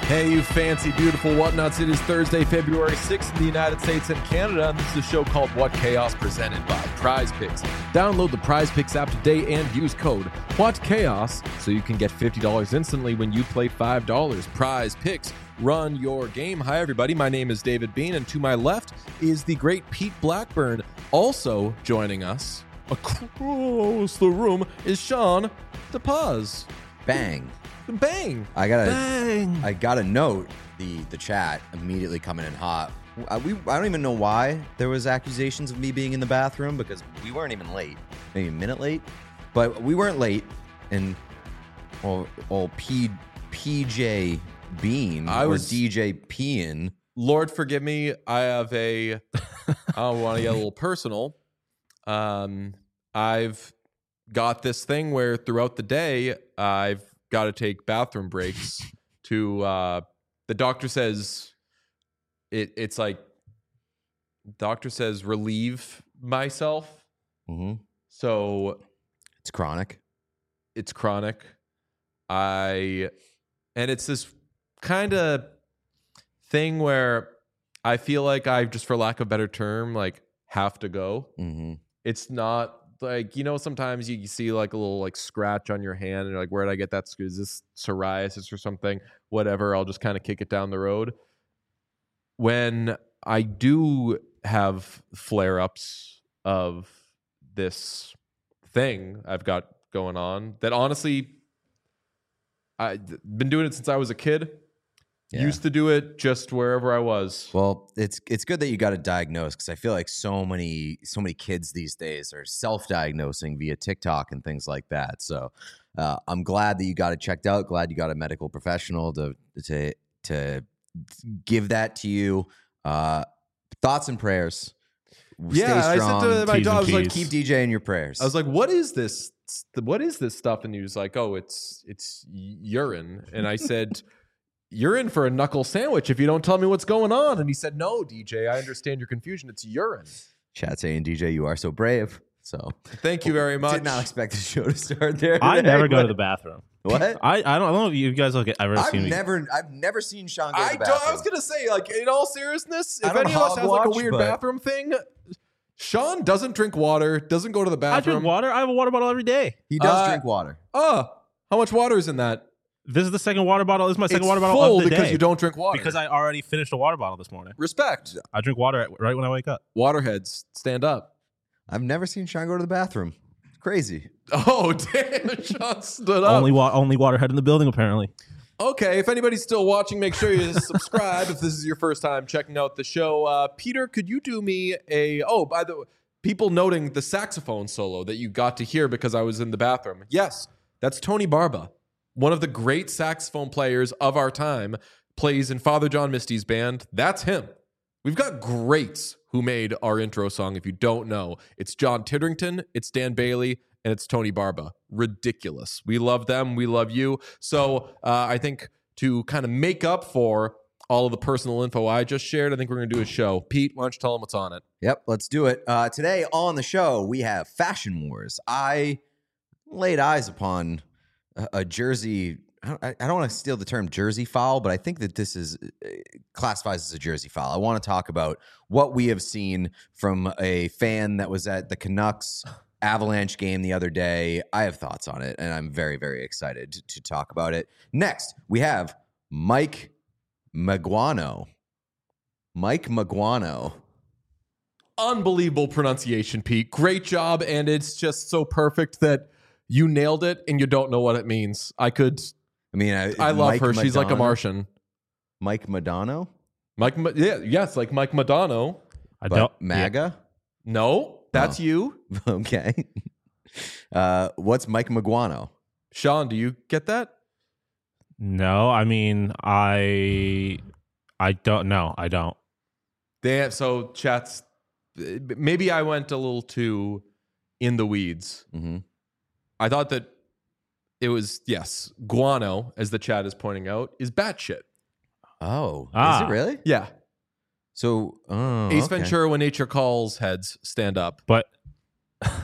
Hey, you fancy, beautiful whatnots. It is Thursday, February 6th in the United States and Canada, and this is a show called What Chaos, presented by Prize Picks. Download the Prize Picks app today and use code WhatChaos so you can get $50 instantly when you play $5. Prize Picks, run your game. Hi, everybody. My name is David Bean, and to my left is the great Pete Blackburn. Also joining us across the room is Sean DePaz. Bang. Bang! I gotta note the chat immediately coming in hot. I don't even know why there was accusations of me being in the bathroom because we weren't even late, maybe a minute late, but we weren't late. And PJ Bean DJ Peeing. Lord forgive me. I don't want to get a little personal. I've got this thing where throughout the day I've got to take bathroom breaks to the doctor says it's like doctor says relieve myself. Mm-hmm. So it's chronic and it's this kind of thing where I feel like I just, for lack of a better term, like have to go. Mm-hmm. It's not like, you know, sometimes you see like a little like scratch on your hand and you're like, where did I get that? Is this psoriasis or something? Whatever. I'll just kind of kick it down the road. When I do have flare-ups of this thing I've got going on, that honestly, I've been doing it since I was a kid. Yeah. Used to do it just wherever I was. Well, it's good that you got it diagnosed because I feel like so many kids these days are self-diagnosing via TikTok and things like that. So I'm glad that you got it checked out. Glad you got a medical professional to give that to you. Thoughts and prayers. Stay strong. I said to my dog, I was like, keep DJ in your prayers. I was like, what is this? What is this stuff? And he was like, oh, it's urine. And I said, you're in for a knuckle sandwich if you don't tell me what's going on. And he said, no, DJ, I understand your confusion. It's urine. Chat saying, DJ, you are so brave. So thank you very much. Did not expect the show to start there today. I never go to the bathroom. What? I don't know if you guys look at I've never seen Sean go to the bathroom. I was gonna say, like, in all seriousness, if any of us has like a weird bathroom thing, Sean doesn't drink water, doesn't go to the bathroom. I drink water. I have a water bottle every day. He does drink water. How much water is in that? This is the second water bottle. This is my second water bottle full of the because day. You don't drink water. Because I already finished a water bottle this morning. Respect. I drink water right when I wake up. Waterheads, stand up. I've never seen Sean go to the bathroom. It's crazy. Oh, damn. Sean stood up. Only waterhead in the building, apparently. Okay, if anybody's still watching, make sure you subscribe if this is your first time checking out the show. Peter, could you do me by the way, people noting the saxophone solo that you got to hear because I was in the bathroom. Yes, that's Tony Barba. One of the great saxophone players of our time, plays in Father John Misty's band. That's him. We've got greats who made our intro song. If you don't know, it's John Titterington, it's Dan Bailey, and it's Tony Barba. Ridiculous. We love them. We love you. So I think to kind of make up for all of the personal info I just shared, I think we're going to do a show. Pete, why don't you tell them what's on it? Yep, let's do it. Today on the show, we have Fashion Wars. I laid eyes upon a jersey. I don't want to steal the term jersey foul, but I think that this is classifies as a jersey foul. I want to talk about what we have seen from a fan that was at the Canucks Avalanche game the other day. I have thoughts on it, and I'm very, very excited to talk about it. Next, we have Mike Maguano. Mike Maguano. Unbelievable pronunciation, Pete. Great job, and it's just so perfect that you nailed it, and you don't know what it means. I love Mike her. Madonna? She's like a Martian. Mike Madonna? Yes, like Mike Madonna. MAGA? No, that's you. Okay. What's Mike Maguano? Sean, do you get that? No, I mean, I don't know. I don't. So chats, maybe I went a little too in the weeds. Mm-hmm. I thought that it was, yes, guano, as the chat is pointing out, is batshit. Oh, is it really? Yeah. So, Ace Ventura, When Nature Calls, heads stand up. But,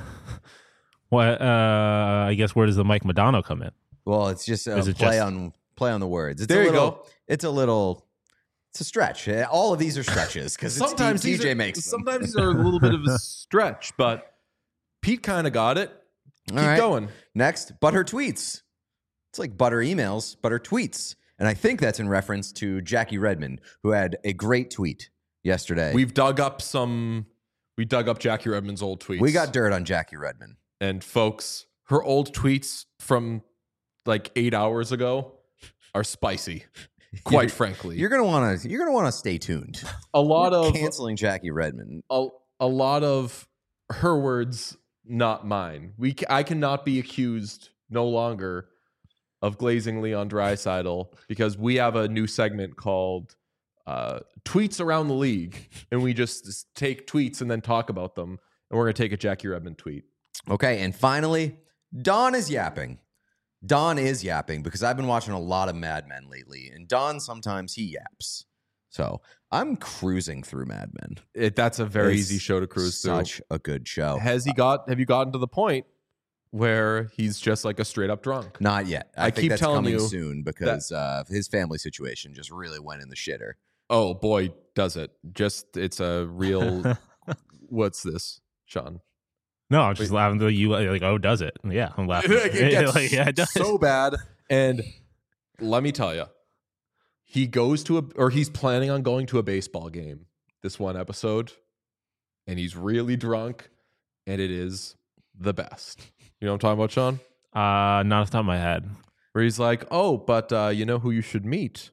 I guess where does the Mike Madonna come in? Well, it's just a Play on the words. It's There a you little, go. It's a stretch. All of these are stretches because Sometimes these TJ are, makes them. sometimes these are a little bit of a stretch, but Pete kind of got it. Keep All right. going. Next, but her tweets. It's like butter emails, but her tweets. And I think that's in reference to Jackie Redmond, who had a great tweet yesterday. We dug up Jackie Redmond's old tweets. We got dirt on Jackie Redmond. And folks, her old tweets from like 8 hours ago are spicy. Quite frankly, You're gonna want to stay tuned. a lot We're of canceling Jackie Redmond. a lot of her words, not mine. I cannot be accused no longer of glazing Leon Draisaitl because we have a new segment called Tweets Around the League, and we just take tweets and then talk about them. And we're gonna take a Jackie Redmond tweet. Okay, and finally, Don is yapping. Don is yapping because I've been watching a lot of Mad Men lately, and Don sometimes he yaps. So I'm cruising through Mad Men. That's a very It's easy show to cruise through. Such a good show. Have you gotten to the point where he's just like a straight up drunk? Not yet. I think keep that's telling coming you soon because his family situation just really went in the shitter. Oh boy, does it. It's a real what's this, Sean? No, I'm just laughing at you like, oh, does it? Yeah, I'm laughing. It gets Like, yeah, it does. so bad. And let me tell you, he's planning on going to a baseball game this one episode, and he's really drunk, and it is the best. You know what I'm talking about, Sean? Not off the top of my head. Where he's like, oh, but you know who you should meet?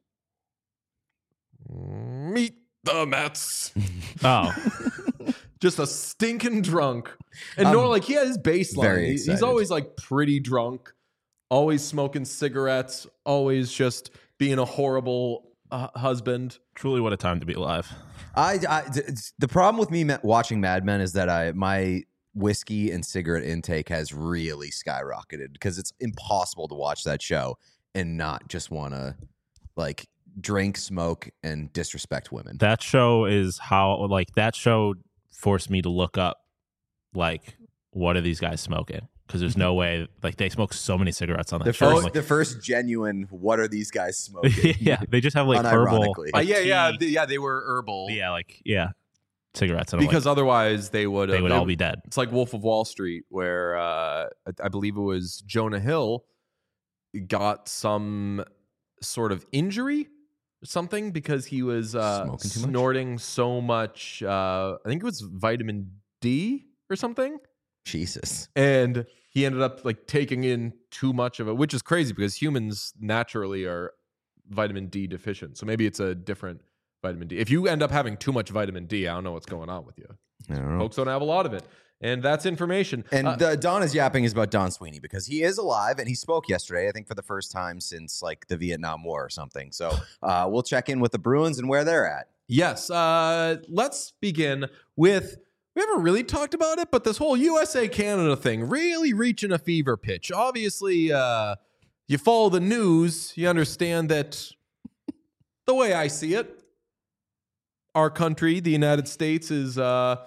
Meet the Mets. Oh, Just a stinking drunk. And he had his baseline. very He's excited. always like pretty drunk, always smoking cigarettes, always just being a horrible husband. truly, what a time to be alive. The problem with me watching Mad Men is that my whiskey and cigarette intake has really skyrocketed because it's impossible to watch that show and not just want to like drink, smoke, and disrespect women. That show is how that show forced me to look up what are these guys smoking? Because there's no way they smoke so many cigarettes on that show. The first genuine, what are these guys smoking? Yeah, they just have herbal. Unironically. They were herbal. Yeah, cigarettes. And Because otherwise they would all be dead. It's like Wolf of Wall Street, where I believe it was Jonah Hill got some sort of injury or something because he was Smoking too much? snorting so much. I think it was vitamin D or something. Jesus. And he ended up taking in too much of it, which is crazy because humans naturally are vitamin D deficient. So maybe it's a different vitamin D. If you end up having too much vitamin D, I don't know what's going on with you. I don't know. Folks don't have a lot of it. And that's information. And Don is yapping is about Don Sweeney because he is alive and he spoke yesterday, I think for the first time since the Vietnam War or something. So we'll check in with the Bruins and where they're at. Yes. Let's begin with, we haven't really talked about it, but this whole USA-Canada thing really reaching a fever pitch. Obviously, you follow the news, you understand that the way I see it, our country, the United States, is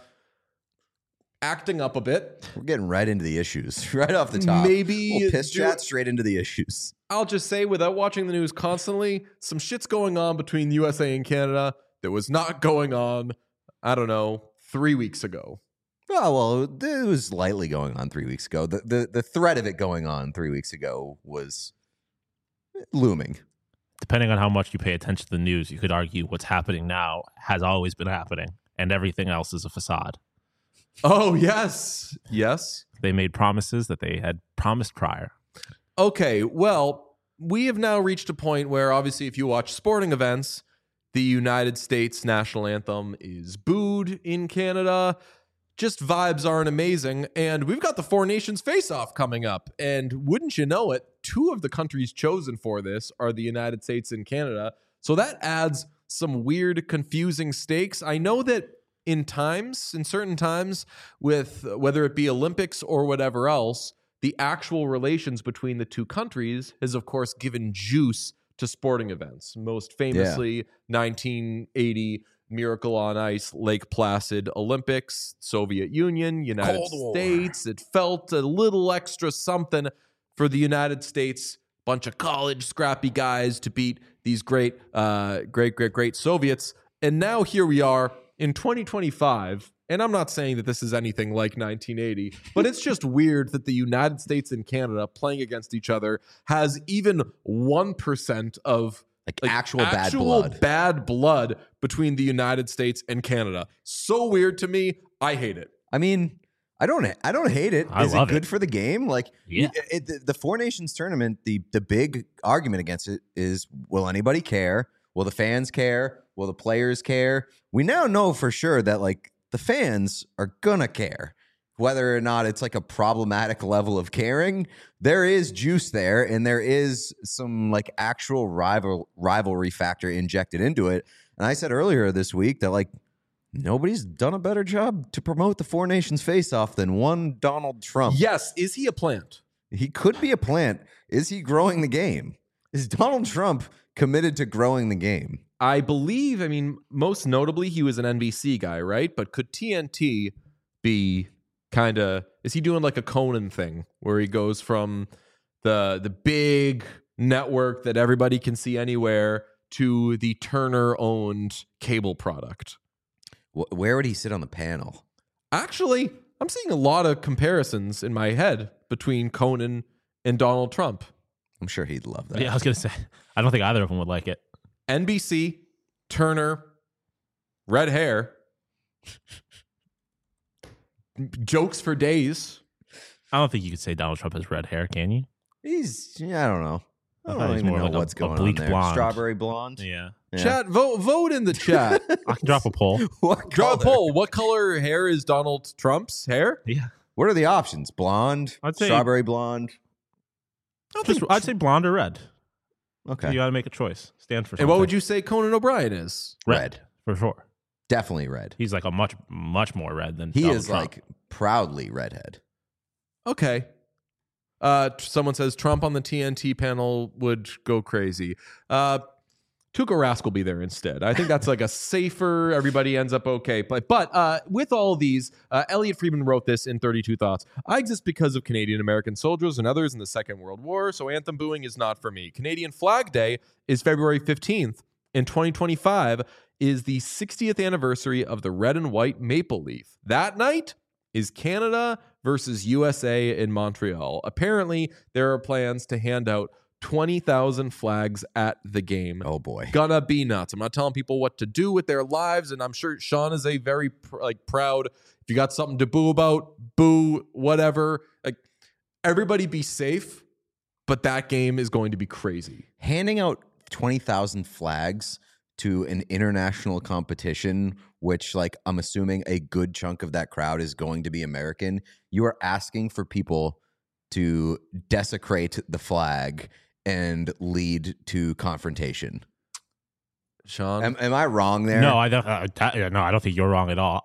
acting up a bit. We're getting right into the issues, right off the top. Maybe we'll piss chat straight into the issues. I'll just say, without watching the news constantly, some shit's going on between the USA and Canada that was not going on, I don't know, 3 weeks ago. Oh, well, it was lightly going on 3 weeks ago. The threat of it going on 3 weeks ago was looming. Depending on how much you pay attention to the news, you could argue what's happening now has always been happening, and everything else is a facade. Oh, yes. Yes. They made promises that they had promised prior. Okay, well, we have now reached a point where obviously if you watch sporting events, the United States national anthem is booed in Canada. Just vibes aren't amazing. And we've got the Four Nations face-off coming up. And wouldn't you know it, two of the countries chosen for this are the United States and Canada. So that adds some weird, confusing stakes. I know that in certain times, with whether it be Olympics or whatever else, the actual relations between the two countries has, of course, given juice to sporting events. Most famously, 1980 Miracle on Ice, Lake Placid Olympics, Soviet Union, United States. It felt a little extra something for the United States bunch of college scrappy guys to beat these great Soviets. And now here we are in 2025. And I'm not saying that this is anything like 1980, but it's just weird that the United States and Canada playing against each other has even 1% of actual bad blood between the United States and Canada. So weird to me. I hate it. I mean, I don't hate it. I Is love it good it. for the game? Like, Yeah. The Four Nations tournament, the big argument against it is, will anybody care? Will the fans care? Will the players care? We now know for sure that, like, the fans are gonna care. Whether or not it's like a problematic level of caring, there is juice there, and there is some like actual rivalry factor injected into it. And I said earlier this week that, like, nobody's done a better job to promote the Four Nations face-off than one Donald Trump. Yes. Is he a plant? He could be a plant. Is he growing the game? Is Donald Trump committed to growing the game? I believe, I mean, most notably, he was an NBC guy, right? But could TNT be kind of, is he doing like a Conan thing where he goes from the big network that everybody can see anywhere to the Turner-owned cable product? Where would he sit on the panel? Actually, I'm seeing a lot of comparisons in my head between Conan and Donald Trump. I'm sure he'd love that. Yeah, I was gonna say, I don't think either of them would like it. NBC, Turner, red hair, jokes for days. I don't think you could say Donald Trump has red hair, can you? I don't know. I thought don't he's even more know like what's a going on bleach there. blonde. Strawberry blonde. Yeah. Yeah. Chat, vote in the chat. I can drop a poll. What Drop a color? poll. What color hair is Donald Trump's hair? Yeah. What are the options? Blonde, I'd say- strawberry blonde. I'd say blonde or red. Okay, You got to make a choice. Stand for something. And what would you say Conan O'Brien is? red. For sure. Definitely red. He's like a much more red than He Donald is Trump. like proudly redhead. Okay. Someone says Trump on the TNT panel would go crazy. Tuukka Rask will be there instead. I think that's like a safer, everybody ends up okay. But with all of these, Elliot Friedman wrote this in 32 Thoughts. I exist because of Canadian American soldiers and others in the Second World War, so anthem booing is not for me. Canadian Flag Day is February 15th. In 2025 is the 60th anniversary of the red and white maple leaf. That night is Canada versus USA in Montreal. Apparently, there are plans to hand out 20,000 flags at the game. Oh boy. Gonna be nuts. I'm not telling people what to do with their lives, and I'm sure Sean is a very proud. If you got something to boo about, boo, whatever. Like, everybody be safe, but that game is going to be crazy. Handing out 20,000 flags to an international competition, which, like, I'm assuming a good chunk of that crowd is going to be American, you are asking for people to desecrate the flag and lead to confrontation. Sean? Am I wrong there? No, I don't think you're wrong at all.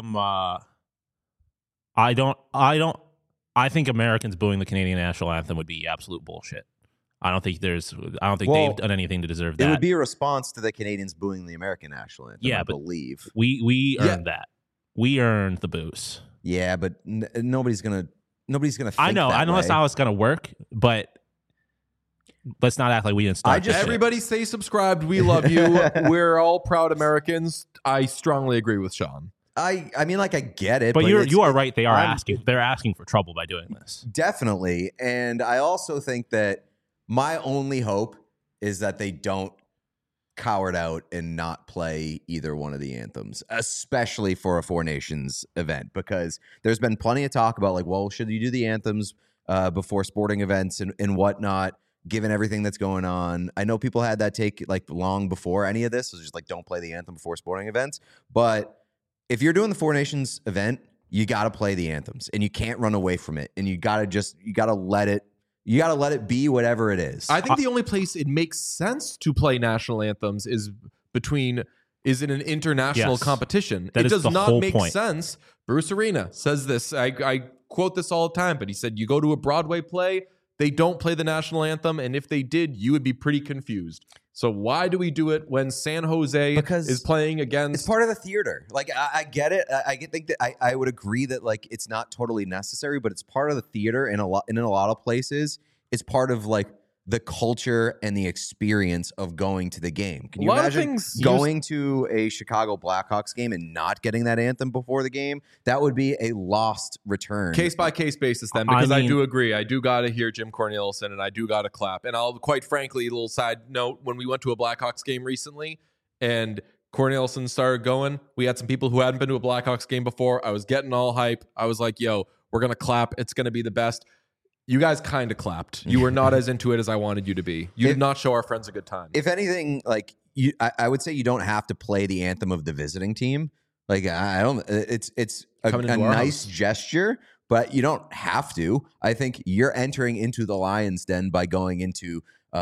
I think Americans booing the Canadian national anthem would be absolute bullshit. I don't think Well, they've done anything to deserve that. It would be a response to the Canadians booing the American national anthem, Yeah, I but- believe. we earned that. We earned the boost. Yeah, but nobody's gonna think I know that that's way. how it's gonna work, but let's not act like we didn't start. this shit. Everybody stay subscribed. We love you. We're all proud Americans. I strongly agree with Sean. I mean, like, I get it, But it's- you are right. They are I'm- They're asking for trouble by doing this. Definitely. And I also think that my only hope is that they don't coward out and not play either one of the anthems, especially for a Four Nations event, because there's been plenty of talk about, like, well, should you do the anthems before sporting events and whatnot, given everything that's going on. I know people had that take, like, long before any of this. It was just like, don't play the anthem before sporting events. But if you're doing the Four Nations event, you got to play the anthems, and you can't run away from it, and you got to let it be whatever it is. I think the only place it makes sense to play national anthems is in an international Yes. competition. That It is does the not whole make point. sense. Bruce Arena says this. I quote this all the time, but he said, you go to a Broadway play, they don't play the national anthem, and if they did, you would be pretty confused. So why do we do it when San Jose Because is playing against... It's part of the theater. Like, I get it. Think that I would agree that, like, it's not totally necessary, but it's part of the theater in a lot of places. It's part of, like, the culture and the experience of going to the game. Can you A lot of imagine things going to a Chicago Blackhawks game and not getting that anthem before the game? That would be a lost return. Case by case basis, then, because I do agree. I do got to hear Jim Cornelison, and I do got to clap. And I'll quite frankly, a little side note: when we went to a Blackhawks game recently, and Cornelison started going, we had some people who hadn't been to a Blackhawks game before. I was getting all hype. I was like, "Yo, we're gonna clap. It's gonna be the best." You guys kind of clapped. You were not as into it as I wanted you to be. You did not show our friends a good time. If anything, like I would say you don't have to play the anthem of the visiting team. Like I don't. It's a nice gesture, but you don't have to. I think you're entering into the Lions' den by going into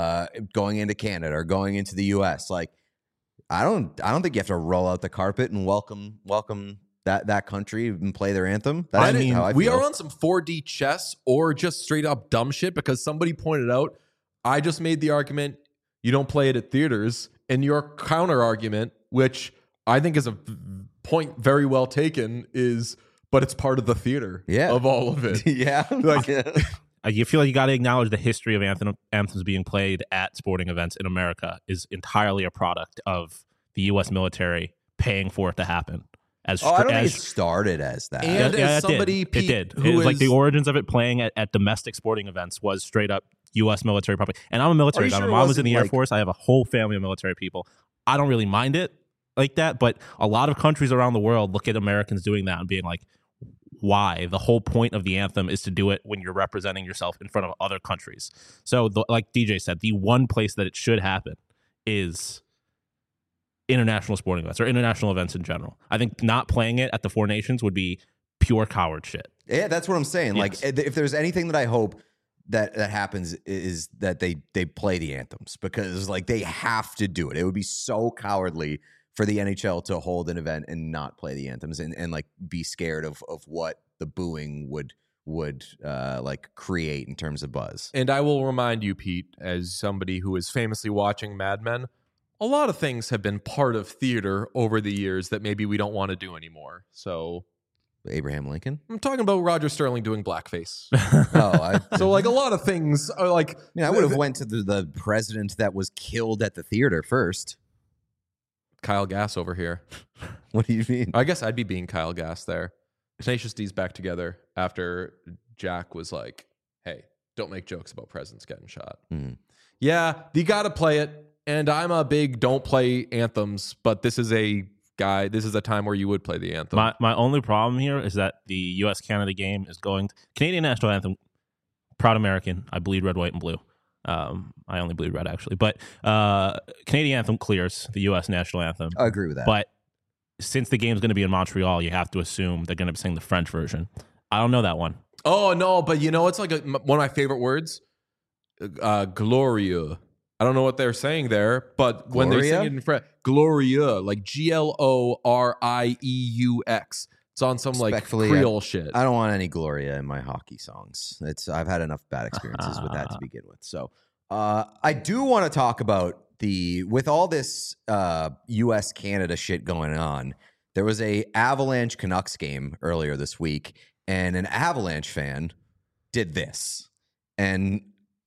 Canada or going into the U.S. Like I don't think you have to roll out the carpet and welcome that country and play their anthem. I mean, we are on some 4D chess or just straight up dumb shit because somebody pointed out, I just made the argument, you don't play it at theaters. And your counter argument, which I think is a point very well taken, is, but it's part of the theater of all of it. Yeah. Like, you feel like you got to acknowledge the history of anthems being played at sporting events in America is entirely a product of the U.S. military paying for it to happen. I don't think it started as that. And as somebody, it did. It was like the origins of it playing at domestic sporting events was straight up U.S. military property. And I'm a military guy. My mom was in the Air Force. I have a whole family of military people. I don't really mind it like that, but a lot of countries around the world look at Americans doing that and being like, why? The whole point of the anthem is to do it when you're representing yourself in front of other countries. So like DJ said, the one place that it should happen is international sporting events or international events in general. I think not playing it at the Four Nations would be pure coward shit. Yeah, that's what I'm saying. Yes. Like, if there's anything that I hope that happens is that they play the anthems, because like they have to do it. It would be so cowardly for the NHL to hold an event and not play the anthems and like be scared of what the booing would like create in terms of buzz. And I will remind you, Pete, as somebody who is famously watching Mad Men, a lot of things have been part of theater over the years that maybe we don't want to do anymore. So Abraham Lincoln? I'm talking about Roger Sterling doing blackface. So like a lot of things are like, I would have went to the president that was killed at the theater first. Kyle Gass over here. What do you mean? I guess I'd be being Kyle Gass there. Tenacious D's back together after Jack was like, hey, don't make jokes about presidents getting shot. Mm. Yeah, you got to play it. And I'm a big don't play anthems, but this is a time where you would play the anthem. My only problem here is that the U.S.-Canada game is going to Canadian national anthem, proud American. I bleed red, white, and blue. I only bleed red, actually. But Canadian anthem clears the U.S. national anthem. I agree with that. But since the game's going to be in Montreal, you have to assume they're going to be singing the French version. I don't know that one. Oh, no, but you know, it's like one of my favorite words, glorieux. I don't know what they're saying there, but when they're singing in French, glorieux, like Glorieux. It's on some like Creole shit. I don't want any Gloria in my hockey songs. I've had enough bad experiences with that to begin with. So I do want to talk about with all this U.S. Canada shit going on. There was a Avalanche Canucks game earlier this week, and an Avalanche fan did this. And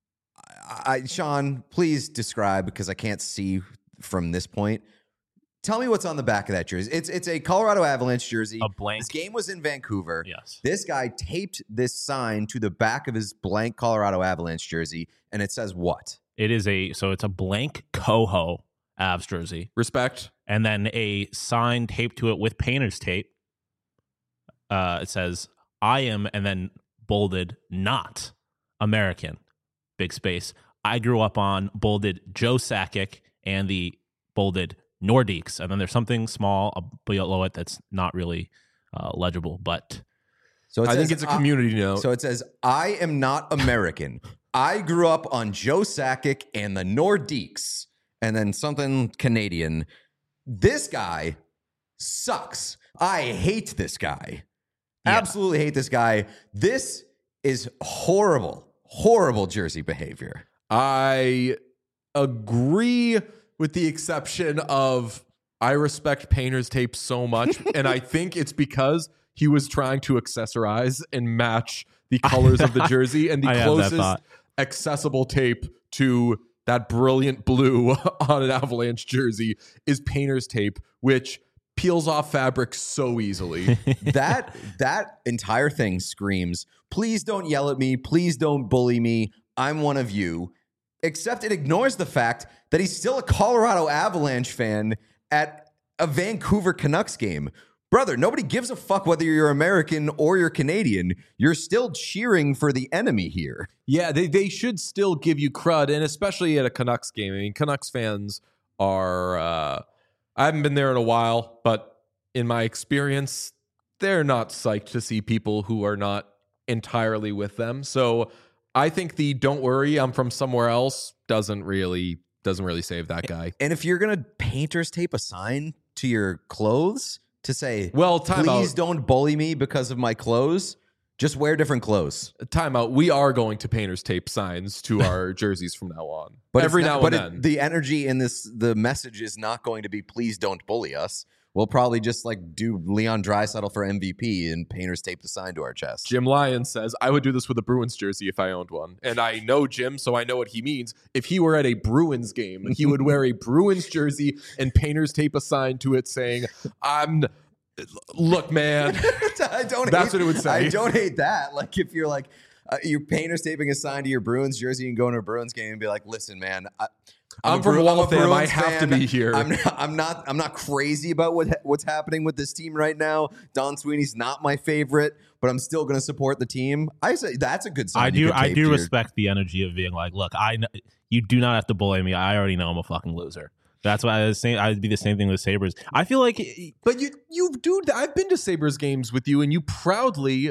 Sean, please describe, because I can't see from this point. Tell me what's on the back of that jersey. It's a Colorado Avalanche jersey. A blank. This game was in Vancouver. Yes. This guy taped this sign to the back of his blank Colorado Avalanche jersey, and it says what? It's a blank Coho Avs jersey. Respect. And then a sign taped to it with painter's tape. It says, I am, and then bolded, not American. Big space. I grew up on bolded Joe Sakic and the bolded Nordiques. And then there's something small below it that's not really legible. But so I think it's a community note. So it says, I am not American. I grew up on Joe Sakic and the Nordiques. And then something Canadian. This guy sucks. I hate this guy. Yeah. Absolutely hate this guy. This is horrible jersey behavior. I agree, with the exception of I respect painter's tape so much, and I think it's because he was trying to accessorize and match the colors of the jersey, and the accessible tape to that brilliant blue on an Avalanche jersey is painter's tape, which peels off fabric so easily. That entire thing screams, please don't yell at me. Please don't bully me. I'm one of you. Except it ignores the fact that he's still a Colorado Avalanche fan at a Vancouver Canucks game. Brother, nobody gives a fuck whether you're American or you're Canadian. You're still cheering for the enemy here. Yeah, they should still give you crud, and especially at a Canucks game. I mean, Canucks fans are, I haven't been there in a while, but in my experience, they're not psyched to see people who are not entirely with them. So I think the "don't worry, I'm from somewhere else" doesn't really save that guy. And if you're gonna painter's tape a sign to your clothes to say, well, please don't bully me because of my clothes, just wear different clothes. Time out. We are going to painter's tape signs to our jerseys from now on. But every now and then. The energy in the message is not going to be please don't bully us. We'll probably just like do Leon Draisaitl for MVP and painter's tape the sign to our chest. Jim Lyon says, I would do this with a Bruins jersey if I owned one. And I know Jim, so I know what he means. If he were at a Bruins game, he would wear a Bruins jersey and painter's tape a sign to it saying, look, man. That's what it would say. I don't hate that. Like if you're like, you're painter's taping a sign to your Bruins jersey and going to a Bruins game and be like, listen, man, I'm from Waltham. I have to be here. I'm not crazy about what's happening with this team right now. Don Sweeney's not my favorite, but I'm still going to support the team. I say that's a good sign. I do respect the energy of being like, look, you do not have to bully me. I already know I'm a fucking loser. That's why I was saying I'd be the same thing with Sabres. I feel like, but you do. I've been to Sabres games with you, and you proudly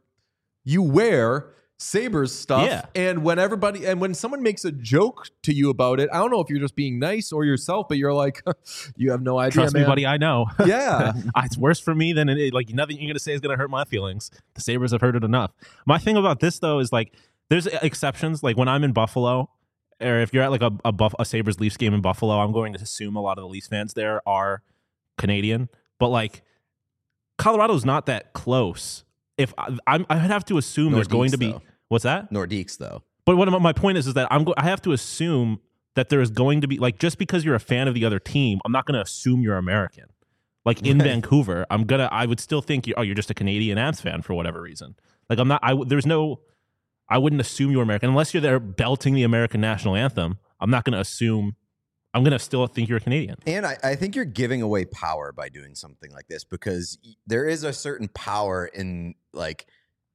you wear Sabres stuff. Yeah. And when someone makes a joke to you about it, I don't know if you're just being nice or yourself, but you're like, you have no idea. Trust me, buddy, I know. Yeah. It's worse for me than nothing you're going to say is going to hurt my feelings. The Sabres have heard it enough. My thing about this, though, is like, there's exceptions. Like when I'm in Buffalo, or if you're at like a Sabres Leafs game in Buffalo, I'm going to assume a lot of the Leafs fans there are Canadian. But like, Colorado's not that close. If I'd have to assume there's going to be. What's that? Nordiques, though. But my point is that I have to assume that there is going to be, like, just because you're a fan of the other team, I'm not going to assume you're American. Like in Vancouver, I would still think you're just a Canadian Avs fan for whatever reason. Like I wouldn't assume you're American unless you're there belting the American national anthem. I'm not going to assume. I'm going to still think you're a Canadian. And I think you're giving away power by doing something like this, because there is a certain power in like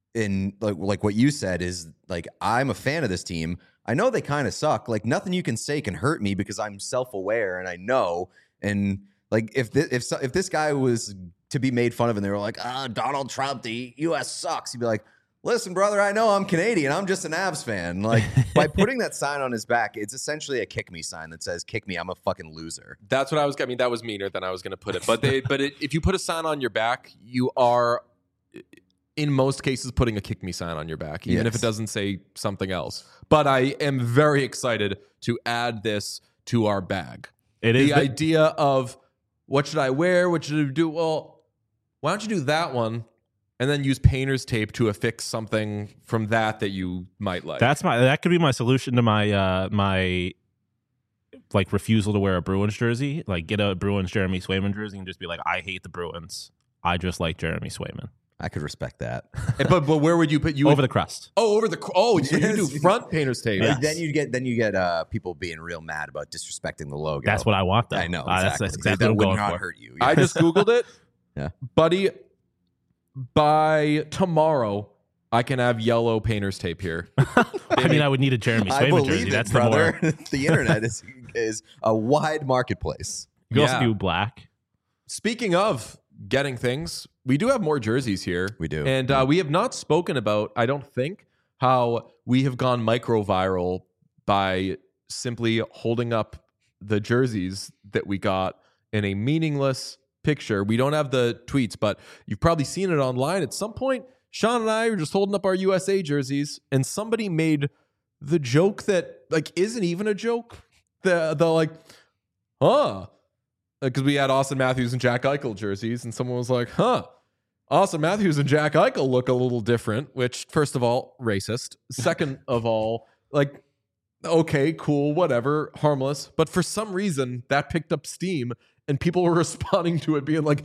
what you said is like, I'm a fan of this team. I know they kind of suck. Like nothing you can say can hurt me because I'm self-aware and I know. And like if this guy was to be made fun of and they were like, Donald Trump, the U.S. sucks, you'd be like, listen, brother, I know I'm Canadian. I'm just an Avs fan. Like by putting that sign on his back, it's essentially a kick me sign that says, kick me, I'm a fucking loser. That's what I mean, that was meaner than I was going to put it. But if you put a sign on your back, you are, in most cases, putting a kick me sign on your back, even if it doesn't say something else. But I am very excited to add this to our bag. It is the idea of what should I wear? What should I do? Well, why don't you do that one and then use painter's tape to affix something from that you might like? That could be my solution to my my like refusal to wear a Bruins jersey. Like get a Bruins Jeremy Swayman jersey and just be like, I hate the Bruins. I just like Jeremy Swayman. I could respect that. but where would you put you over the crust? Oh, over the so you do front painter's tape. Yes. Then you get people being real mad about disrespecting the logo. That's what I want, though. I know. Exactly. That's exactly that what I'm would going not for. hurt you. I just Googled it. Yeah. Buddy, by tomorrow, I can have yellow painter's tape here. I mean, I would need a Jeremy Swayman jersey. That's brother. The more. The internet is a wide marketplace. You can also do black. Speaking of getting things, we do have more jerseys here. We do. And we have not spoken about, I don't think, how we have gone micro-viral by simply holding up the jerseys that we got in a meaningless picture. We don't have the tweets, but you've probably seen it online. At some point, Sean and I were just holding up our USA jerseys, and somebody made the joke that like isn't even a joke. The like, because we had Austin Matthews and Jack Eichel jerseys, and someone was like, Austin Matthews and Jack Eichel look a little different, which, first of all, racist. Second of all, Like, okay, cool, whatever, harmless. But for some reason, that picked up steam, and people were responding to it, being like,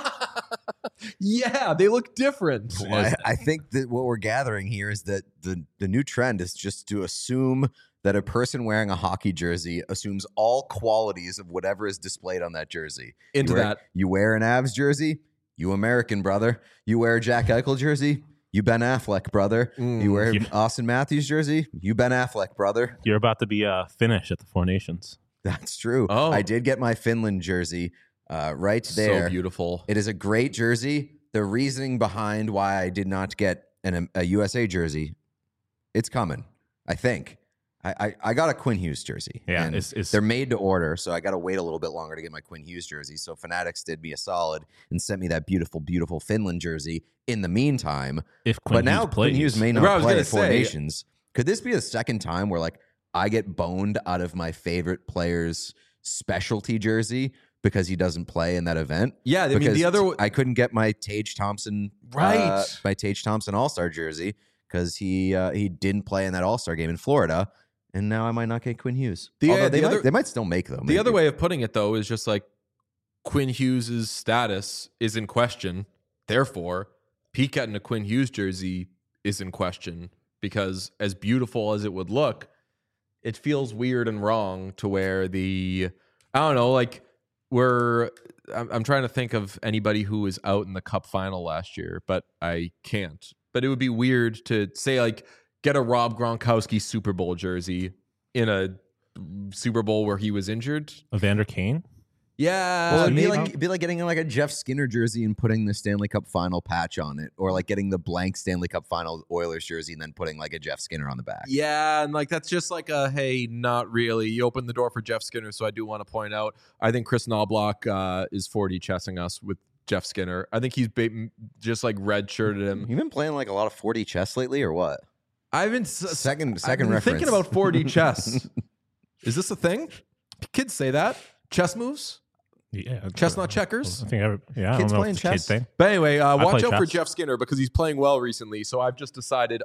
"Yeah, they look different." Well, I think that what we're gathering here is that the new trend is just to assume that a person wearing a hockey jersey assumes all qualities of whatever is displayed on that jersey. You wear an Avs jersey, you American, brother. You wear a Jack Eichel jersey, you Ben Affleck, brother. You wear Austin Matthews jersey, you Ben Affleck, brother. You're about to be Finnish at the Four Nations. That's true. Oh. I did get my Finland jersey right there. So beautiful. It is a great jersey. The reasoning behind why I did not get a USA jersey, it's coming, I think. I got a Quinn Hughes jersey. Yeah, and they're made to order, so I got to wait a little bit longer to get my Quinn Hughes jersey. So Fanatics did me a solid and sent me that beautiful, beautiful Finland jersey in the meantime. Quinn Hughes may not play at Four Nations. Could this be the second time where like I get boned out of my favorite player's specialty jersey because he doesn't play in that event? Yeah, I mean I couldn't get my Tage Thompson my Tage Thompson All-Star jersey because he didn't play in that All-Star game in Florida. And now I might not get Quinn Hughes. They might still make them. The other way of putting it, though, is just like Quinn Hughes' status is in question. Therefore, Pete getting a Quinn Hughes jersey is in question because as beautiful as it would look, it feels weird and wrong to wear I don't know, like I'm trying to think of anybody who was out in the Cup final last year, but I can't. But it would be weird to say like, get a Rob Gronkowski Super Bowl jersey in a Super Bowl where he was injured. Evander Kane? Yeah. Well, it'd be like getting like a Jeff Skinner jersey and putting the Stanley Cup final patch on it. Or like getting the blank Stanley Cup final Oilers jersey and then putting like a Jeff Skinner on the back. Yeah, and like that's just like hey, not really. You opened the door for Jeff Skinner, so I do want to point out, I think Chris Knobloch is 4D chessing us with Jeff Skinner. I think he's just like red-shirted him. You been playing like a lot of 4D chess lately or what? I've been second I've been reference. thinking about 4D chess. Is this a thing? Kids say that chess moves. Yeah, chestnut checkers. I think kids playing chess. But anyway, watch out chess for Jeff Skinner because he's playing well recently. So I've just decided,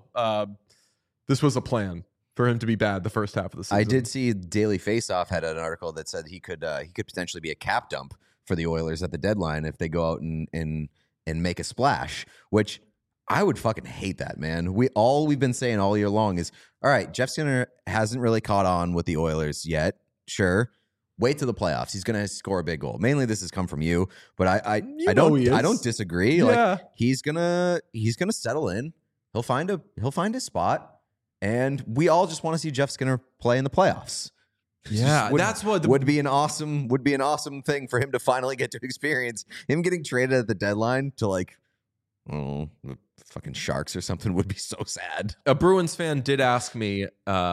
this was a plan for him to be bad the first half of the season. I did see Daily Faceoff had an article that said he could potentially be a cap dump for the Oilers at the deadline if they go out and make a splash, which I would fucking hate that, man. We've been saying all year long is, all right, Jeff Skinner hasn't really caught on with the Oilers yet. Sure. Wait till the playoffs. He's going to score a big goal. Mainly this has come from you, but I don't disagree. Yeah. Like he's going to settle in. He'll find a spot, and we all just want to see Jeff Skinner play in the playoffs. Yeah, that's what would be an awesome thing for him to finally get to experience. Him getting traded at the deadline to like the fucking Sharks or something would be so sad. A Bruins fan did ask me, it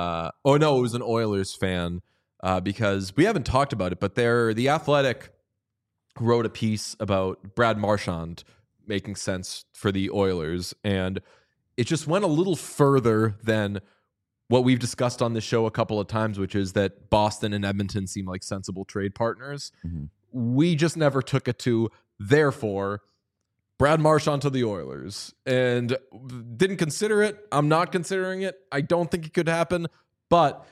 was an Oilers fan, because we haven't talked about it, but The Athletic wrote a piece about Brad Marchand making sense for the Oilers, and it just went a little further than what we've discussed on this show a couple of times, which is that Boston and Edmonton seem like sensible trade partners. Mm-hmm. We just never took it to, therefore, Brad Marchand to the Oilers, and didn't consider it. I'm not considering it. I don't think it could happen, but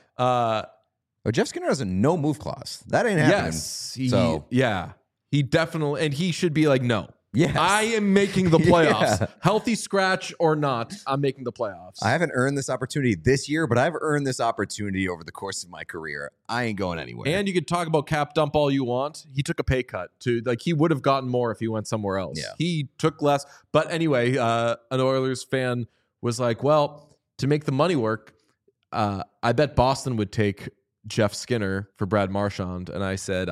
Jeff Skinner has a no move clause. That ain't happening. Yes, he definitely, and he should be like, no. Yes. I am making the playoffs. Yeah. Healthy scratch or not, I'm making the playoffs. I haven't earned this opportunity this year, but I've earned this opportunity over the course of my career. I ain't going anywhere. And you could talk about cap dump all you want. He took a pay cut he would have gotten more if he went somewhere else. Yeah. He took less. But anyway, an Oilers fan was like, well, to make the money work, I bet Boston would take Jeff Skinner for Brad Marchand. And I said,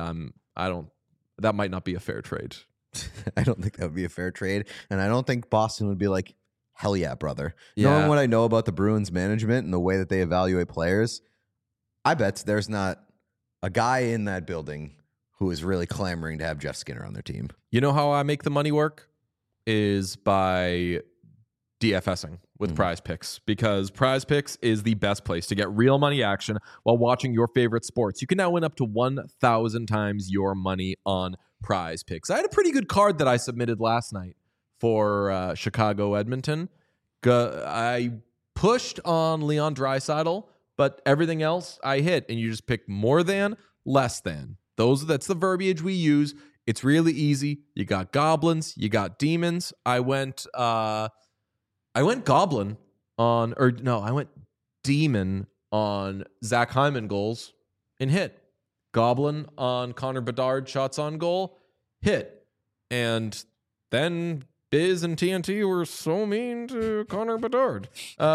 that might not be a fair trade. I don't think that would be a fair trade. And I don't think Boston would be like, hell yeah, brother. Yeah. Knowing what I know about the Bruins management and the way that they evaluate players, I bet there's not a guy in that building who is really clamoring to have Jeff Skinner on their team. You know how I make the money work? Is by DFSing with Prize Picks, because Prize Picks is the best place to get real money action while watching your favorite sports. You can now win up to 1,000 times your money on Prize Picks. I had a pretty good card that I submitted last night for Chicago Edmonton. I pushed on Leon Draisaitl, but everything else I hit, and you just pick more than, less than. That's the verbiage we use. It's really easy. You got goblins, you got demons. I went goblin on, I went demon on Zach Hyman goals and hit. Goblin on Connor Bedard shots on goal, hit. And then Biz and TNT were so mean to Connor Bedard.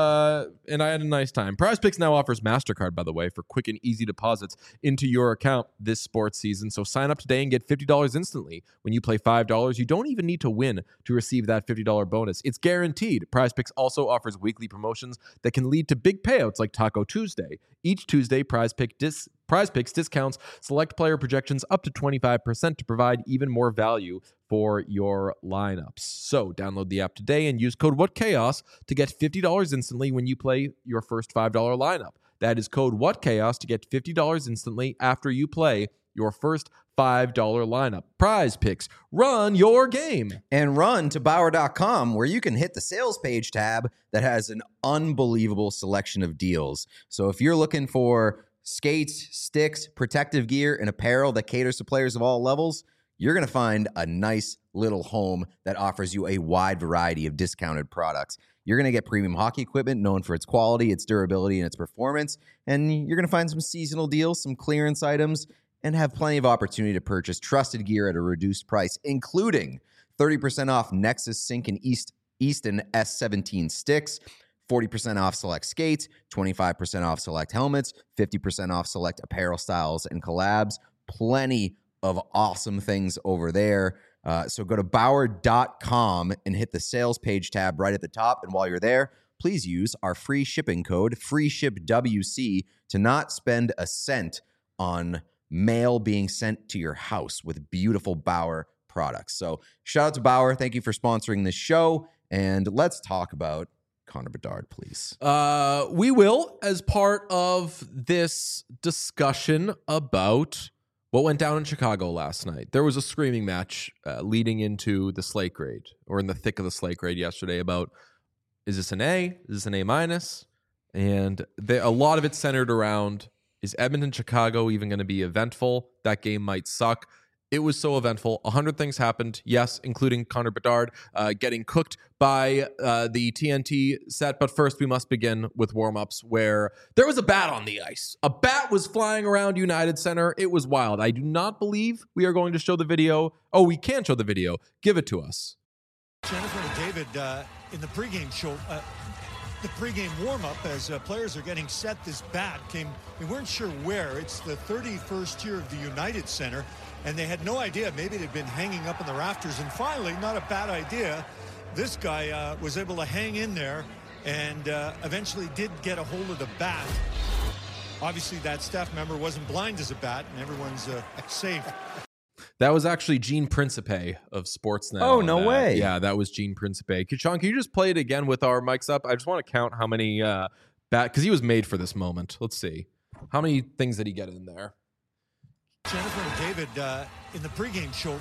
And I had a nice time. PrizePicks now offers MasterCard, by the way, for quick and easy deposits into your account this sports season. So sign up today and get $50 instantly. When you play $5, you don't even need to win to receive that $50 bonus. It's guaranteed. PrizePicks also offers weekly promotions that can lead to big payouts like Taco Tuesday. Each Tuesday, PrizePicks discounts select player projections up to 25% to provide even more value for your lineups. So download the app today and use code WhatChaos to get $50 instantly when you play your first $5 lineup. That is code WhatChaos to get $50 instantly after you play your first $5 lineup. PrizePicks, run your game. And run to Bauer.com, where you can hit the sales page tab that has an unbelievable selection of deals. So if you're looking for skates, sticks, protective gear, and apparel that caters to players of all levels, you're going to find a nice little home that offers you a wide variety of discounted products. You're going to get premium hockey equipment known for its quality, its durability, and its performance. And you're going to find some seasonal deals, some clearance items, and have plenty of opportunity to purchase trusted gear at a reduced price, including 30% off Nexus Sync and Easton S17 sticks, 40% off select skates, 25% off select helmets, 50% off select apparel styles and collabs. Plenty of awesome things over there. So go to Bauer.com and hit the sales page tab right at the top. And while you're there, please use our free shipping code, FreeShipWC, to not spend a cent on mail being sent to your house with beautiful Bauer products. So shout out to Bauer. Thank you for sponsoring this show. And let's talk about Connor Bedard, please. We will, as part of this discussion about what went down in Chicago last night. There was a screaming match leading into the slate grade, or in the thick of the slate grade yesterday, about, is this an A? Is this an A minus? And a lot of it centered around, is Edmonton-Chicago even going to be eventful? That game might suck. It was so eventful. 100 things happened, yes, including Connor Bedard getting cooked by the TNT set. But first, we must begin with warm-ups, where there was a bat on the ice. A bat was flying around United Center. It was wild. I do not believe we are going to show the video. Oh, we can show the video. Give it to us. Jennifer and David, in the pregame show, the pregame warm-up, as players are getting set, this bat came, we weren't sure where. It's the 31st tier of the United Center, and they had no idea. Maybe it had been hanging up in the rafters, and finally, not a bad idea, this guy was able to hang in there and eventually did get a hold of the bat. Obviously, that staff member wasn't blind as a bat, and everyone's safe. That was actually Gene Principe of Sportsnet. Oh, no way. Yeah, that was Gene Principe. Sean, can you just play it again with our mics up? I just want to count how many because he was made for this moment. Let's see. How many things did he get in there? Jennifer and David, in the pregame show,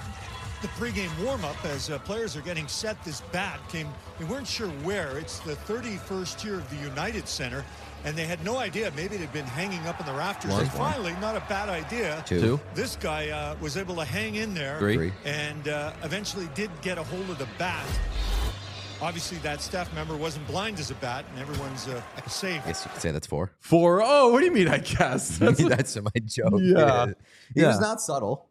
the pregame warm-up, as players are getting set, this bat came, we weren't sure where. It's the 31st tier of the United Center, and they had no idea. Maybe it had been hanging up in the rafters. And finally, not a bad idea. Two. This guy was able to hang in there. Three. And eventually did get a hold of the bat. Obviously, that staff member wasn't blind as a bat, and everyone's safe. I guess you could say that's four. Four. Oh, what do you mean, I guess? That's my joke. Yeah. It was not subtle.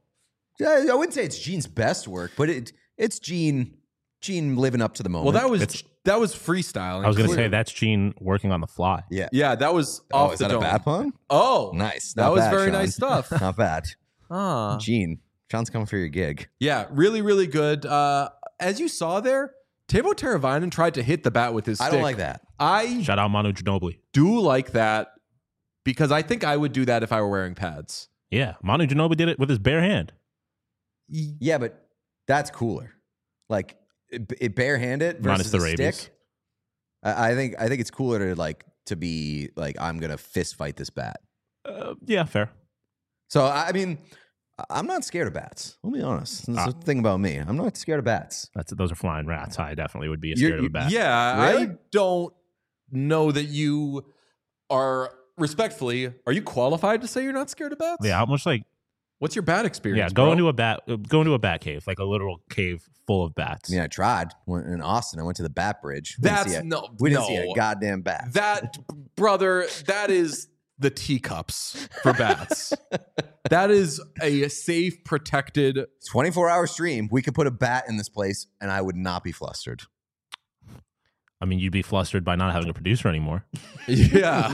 I wouldn't say it's Gene's best work, but it's Gene living up to the moment. Well, that was freestyle. I was going to say that's Gene working on the fly. Yeah. Yeah, that was off is the that dome. a bad pun? Oh, Nice. That Not was bad, very Sean. nice stuff. Not bad. Ah. Gene, Sean's coming for your gig. Yeah, really, really good. As you saw there, Teuvo Teravainen tried to hit the bat with his stick. I don't like that. I Shout out Manu Ginobili. do like that because I think I would do that if I were wearing pads. Yeah, Manu Ginobili did it with his bare hand. Yeah, but that's cooler. Like it barehanded Minus versus the a rabies. stick. I think it's cooler to be like, I'm gonna fist fight this bat. Yeah, fair. So I mean, I'm not scared of bats. I'll be honest. That's the thing about me. I'm not scared of bats. Those are flying rats. I definitely would be scared of a bat. Yeah, Really? I don't know that you are respectfully. Are you qualified to say you're not scared of bats? Yeah, how much What's your bat experience? go into a bat cave, like a literal cave full of bats. Yeah, I tried. In Austin, I went to the Bat Bridge. We didn't see a goddamn bat. That, brother, that is the teacups for bats. That is a safe, protected 24-hour stream. We could put a bat in this place, and I would not be flustered. I mean, you'd be flustered by not having a producer anymore. Yeah.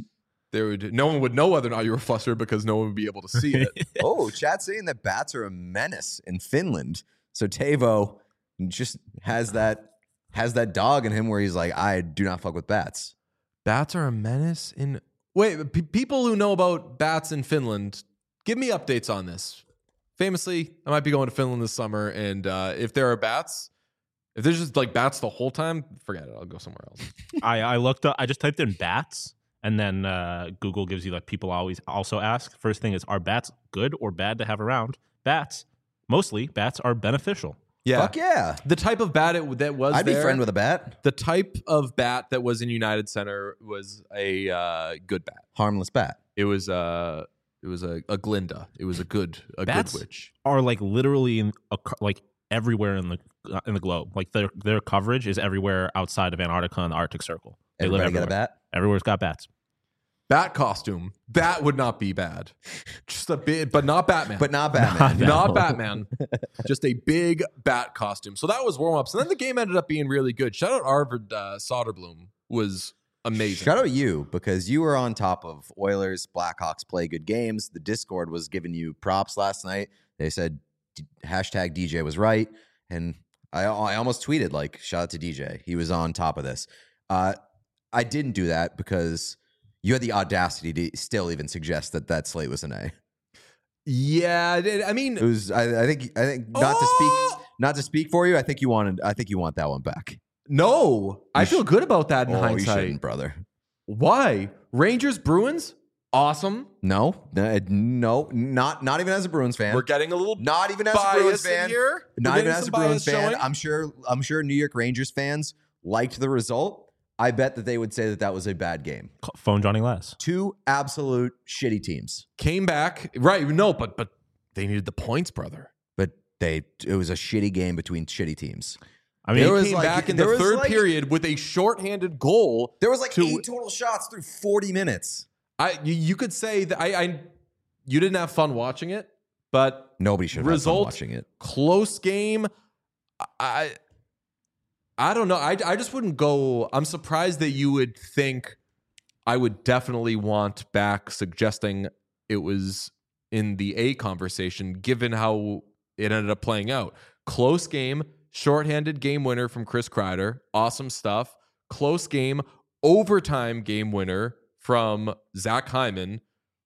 No one would know whether or not you were flustered because no one would be able to see it. Oh, chat's saying that bats are a menace in Finland. So Teuvo just has that dog in him where he's like, I do not fuck with bats. Bats are a menace in... Wait, people who know about bats in Finland, give me updates on this. Famously, I might be going to Finland this summer, and if there are bats, if there's just like bats the whole time, forget it. I'll go somewhere else. I looked up, I just typed in bats, and then Google gives you like people always also ask. First thing is, are bats good or bad to have around? Mostly bats are beneficial. Yeah. Fuck yeah. The type of bat that was I'd be friend with a bat. The type of bat that was in United Center was a good bat. Harmless bat. It was a Glinda. It was a good witch. Are like literally like everywhere in the globe. Like their coverage is everywhere outside of Antarctica and the Arctic Circle. They Everybody live everywhere. got a bat? Everywhere's got bats. Bat costume. That would not be bad. Just a bit, but not Batman. But not Batman. Not Batman. Just a big bat costume. So that was warm-ups. And then the game ended up being really good. Shout out Arvid Soderblom. Was amazing. Shout out you, because you were on top of Oilers. Blackhawks play good games. The Discord was giving you props last night. They said hashtag DJ was right. And I almost tweeted, like, shout out to DJ. He was on top of this. I didn't do that because you had the audacity to still even suggest that slate was an A. Yeah, I mean, it was. I think not to speak for you. I think you want that one back. No, I feel good about that in hindsight, you shouldn't, brother. Why? Rangers Bruins, awesome. No, not even as a Bruins fan. We're getting a little not even as a Bruins fan here. Not even as a Bruins fan. Showing. I'm sure New York Rangers fans liked the result. I bet that they would say that was a bad game. Phone Johnny Lass. Two absolute shitty teams came back. Right? No, but they needed the points, brother. But it was a shitty game between shitty teams. I mean, they came back in the third period with a shorthanded goal. There was 8 total shots through 40 minutes. You could say that you didn't have fun watching it, but nobody should have had fun watching it. Close game. I don't know. I just wouldn't go. I'm surprised that you would think I would definitely want back suggesting it was in the A conversation, given how it ended up playing out. Close game, shorthanded game winner from Chris Kreider. Awesome stuff. Close game, overtime game winner from Zach Hyman.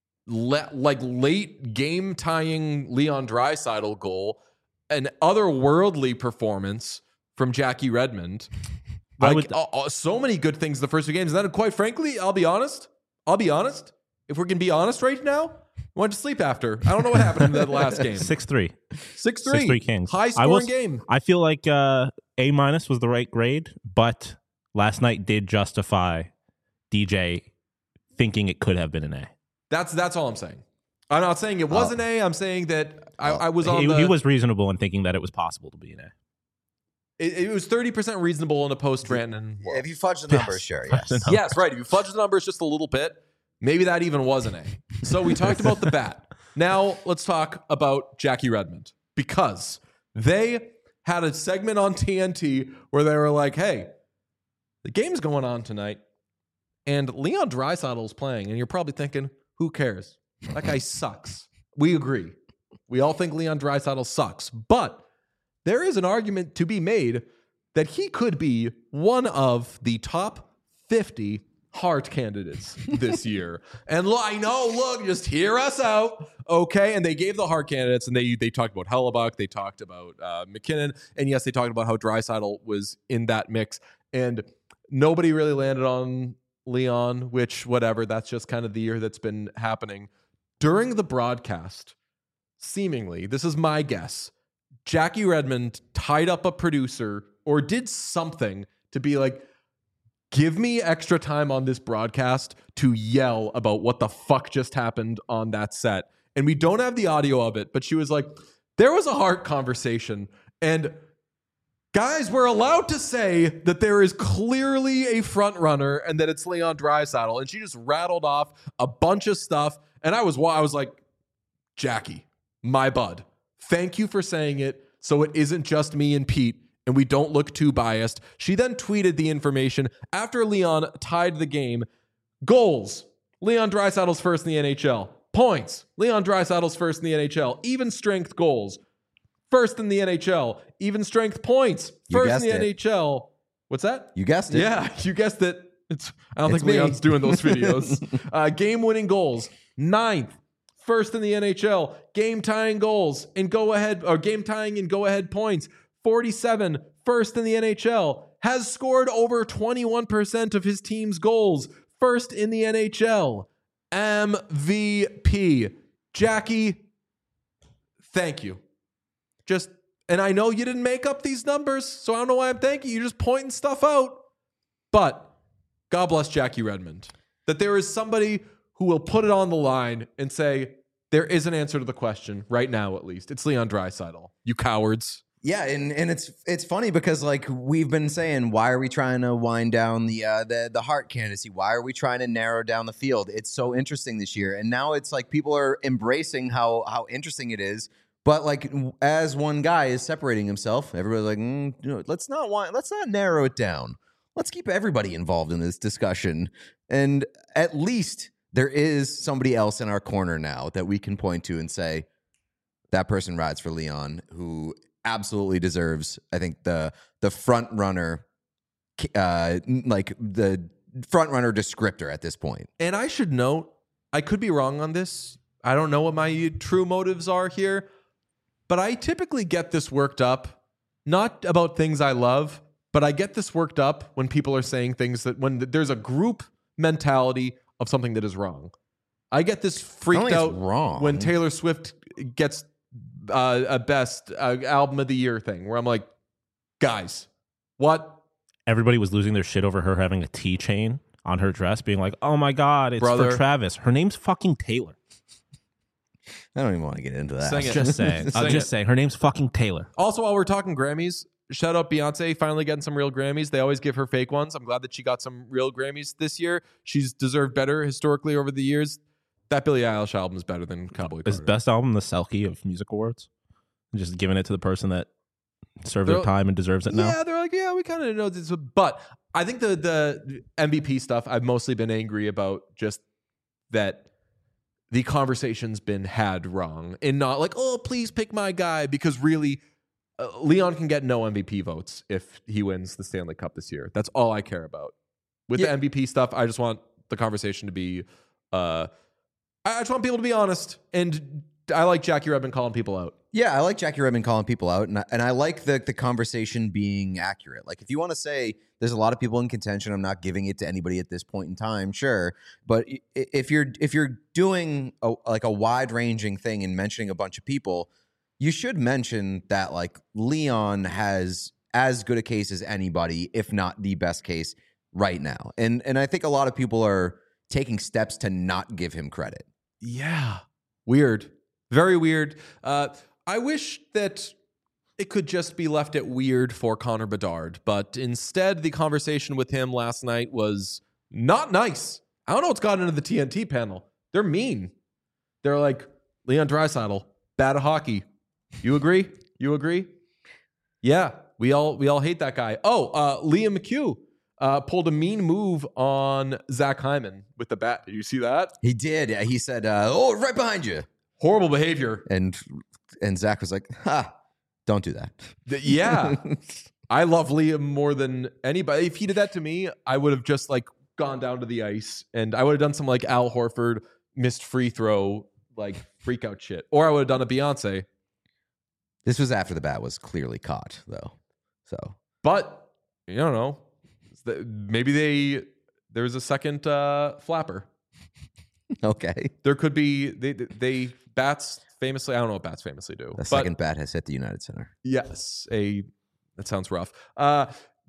Late game tying Leon Draisaitl goal. An otherworldly performance from Jackie Redmond. So many good things the first 2 games. And then, quite frankly, I'll be honest. If we're going to be honest right now, I went to sleep after. I don't know what happened in that last game. 6-3. 6-3 Kings. High scoring game. I feel like A- was the right grade, but last night did justify DJ thinking it could have been an A. That's all I'm saying. I'm not saying it was an A. I'm saying that I was on he was reasonable in thinking that it was possible to be an A. It was 30% reasonable in a post-Rantanen world. If you fudge the numbers, sure, yes. Yes, right. If you fudge the numbers just a little bit, maybe that even was an A. So we talked about the bat. Now let's talk about Jackie Redmond, because they had a segment on TNT where they were like, hey, the game's going on tonight, and Leon Draisaitl's playing, and you're probably thinking, who cares? That guy sucks. We agree. We all think Leon Draisaitl sucks, but there is an argument to be made that he could be one of the top 50 Hart candidates this year. And I know, look, just hear us out, okay? And they gave the Hart candidates, and they talked about Hellebuck, they talked about McKinnon, and yes, they talked about how Draisaitl was in that mix. And nobody really landed on Leon, which, whatever, that's just kind of the year that's been happening. During the broadcast, seemingly, this is my guess, Jackie Redmond tied up a producer or did something to be like, give me extra time on this broadcast to yell about what the fuck just happened on that set. And we don't have the audio of it, but she was like, there was a heart conversation. And guys, we're allowed to say that there is clearly a front runner and that it's Leon Draisaitl. And she just rattled off a bunch of stuff. And I was like, Jackie, my bud, thank you for saying it so it isn't just me and Pete and we don't look too biased. She then tweeted the information after Leon tied the game. Goals, Leon Draisaitl's first in the NHL. Points, Leon Draisaitl's first in the NHL. Even strength goals, first in the NHL. Even strength points, first in the NHL. What's that? You guessed it. Yeah, you guessed it. I don't think Leon's doing those videos. Game-winning goals, 9th, first in the NHL. Game-tying goals and go-ahead, or game-tying and go-ahead points, 47, first in the NHL. Has scored over 21% of his team's goals, first in the NHL. MVP. Jackie, thank you. And I know you didn't make up these numbers, so I don't know why I'm thanking you. You're just pointing stuff out. But God bless Jackie Redmond. That there is somebody who will put it on the line and say, there is an answer to the question right now, at least. It's Leon Draisaitl. You cowards. Yeah, and it's funny because like we've been saying, why are we trying to wind down the Hart candidacy? Why are we trying to narrow down the field? It's so interesting this year, and now it's like people are embracing how interesting it is. But like as one guy is separating himself, everybody's like, let's not narrow it down. Let's keep everybody involved in this discussion, and at least there is somebody else in our corner now that we can point to and say that person rides for Leon, who absolutely deserves, I think, the front runner, like the front runner descriptor at this point. And I should note, I could be wrong on this. I don't know what my true motives are here, but I typically get this worked up, not about things I love, but I get this worked up when people are saying things that when there's a group mentality of something that is wrong. I get this freaked out when Taylor Swift gets a best album of the year thing where I'm like, guys, what? Everybody was losing their shit over her having a T chain on her dress, being like, oh my God, it's Brother. for Travis. Her name's fucking Taylor. I don't even want to get into that. Sing it. Just saying. I'm just saying. Her name's fucking Taylor. Also, while we're talking Grammys, shout out Beyonce finally getting some real Grammys. They always give her fake ones. I'm glad that she got some real Grammys this year. She's deserved better historically over the years. That Billie Eilish album is better than Cowboy Carter. Is best album the Selkie of music awards? Just giving it to the person that served their time and deserves it now? Yeah, they're like, yeah, we kind of know this. But I think the MVP stuff, I've mostly been angry about just that the conversation's been had wrong and not like, oh, please pick my guy, because really Leon can get no MVP votes if he wins the Stanley Cup this year. That's all I care about. With the MVP stuff, I just want the conversation to be I just want people to be honest, and I like Jackie Redmond calling people out. Yeah, I like Jackie Redmond calling people out, and I like the conversation being accurate. Like, if you want to say there's a lot of people in contention, I'm not giving it to anybody at this point in time, sure. But if you're doing a wide ranging thing and mentioning a bunch of people, you should mention that like Leon has as good a case as anybody, if not the best case right now. And I think a lot of people are taking steps to not give him credit. Yeah. Weird. Very weird. I wish that it could just be left at weird for Connor Bedard, but instead the conversation with him last night was not nice. I don't know what's gotten into the TNT panel. They're mean. They're like, Leon Draisaitl, bad at hockey. You agree? You agree? Yeah, we all hate that guy. Oh, Liam McHugh pulled a mean move on Zach Hyman with the bat. Did you see that? He did. He said, "Oh, right behind you." Horrible behavior. And Zach was like, "Ha, don't do that." Yeah, I love Liam more than anybody. If he did that to me, I would have just like gone down to the ice and I would have done some like Al Horford missed free throw like freak out shit, or I would have done a Beyonce. This was after the bat was clearly caught, though. So, but you don't know. Maybe there was a second flapper. Okay. There could be they bats famously. I don't know what bats famously do. The second bat has hit the United Center. Yes, that sounds rough.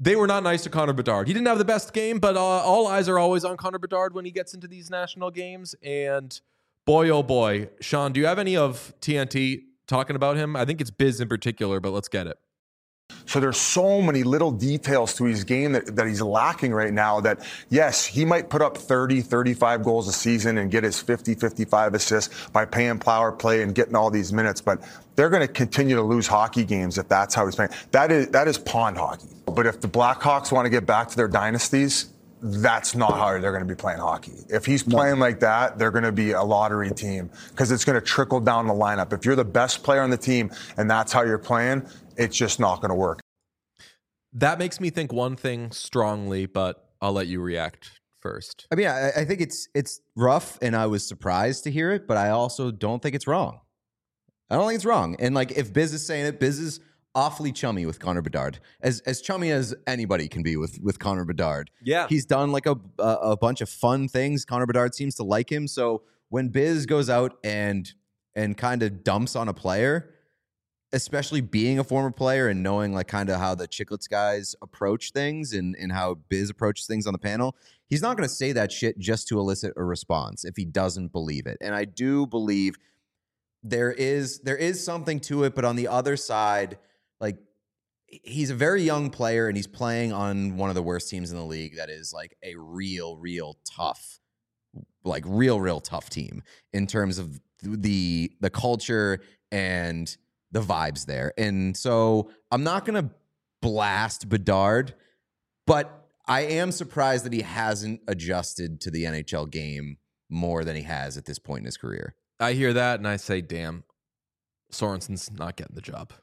they were not nice to Connor Bedard. He didn't have the best game, but all eyes are always on Connor Bedard when he gets into these national games. And boy, oh boy, Sean, do you have any of TNT talking about him? I think it's Biz in particular, but let's get it. So there's so many little details to his game that he's lacking right now that, yes, he might put up 30, 35 goals a season and get his 50, 55 assists by paying power play and getting all these minutes, but they're going to continue to lose hockey games if that's how he's playing. That is pond hockey. But if the Blackhawks want to get back to their dynasties, that's not how they're going to be playing hockey. If he's playing like that, they're going to be a lottery team because it's going to trickle down the lineup. If you're the best player on the team and that's how you're playing, it's just not going to work. That makes me think one thing strongly, but I'll let you react first. I mean, I think it's rough, and I was surprised to hear it, but I also don't think it's wrong. I don't think it's wrong. And like, if Biz is saying it, Biz is awfully chummy with Connor Bedard, as chummy as anybody can be with Connor Bedard. Yeah, he's done like a bunch of fun things. Connor Bedard seems to like him. So when Biz goes out and kind of dumps on a player, especially being a former player and knowing like kind of how the Chicklets guys approach things and how Biz approaches things on the panel, he's not going to say that shit just to elicit a response if he doesn't believe it. And I do believe there is something to it, but on the other side, like, he's a very young player and he's playing on one of the worst teams in the league that is like a real tough, like real tough team in terms of the culture and the vibes there. And so I'm not going to blast Bedard, but I am surprised that he hasn't adjusted to the NHL game more than he has at this point in his career. I hear that and I say, damn, Sorensen's not getting the job.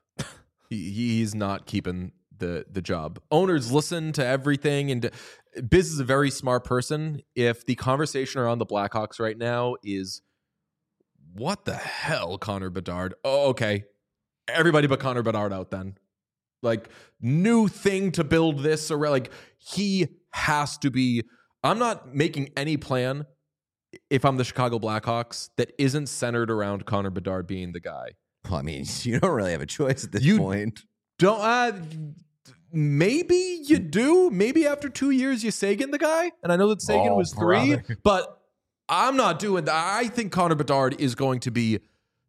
He's not keeping the job. Owners listen to everything, and Biz is a very smart person. If the conversation around the Blackhawks right now is, what the hell, Connor Bedard? Oh, okay. Everybody but Connor Bedard out then. Like, new thing to build this around. Like, he has to be. I'm not making any plan if I'm the Chicago Blackhawks that isn't centered around Connor Bedard being the guy. Well, I mean, you don't really have a choice at this point. Don't. Maybe you do. Maybe after 2 years, you Sagan the guy. And I know that Sagan was 3, but I'm not doing that. I think Connor Bedard is going to be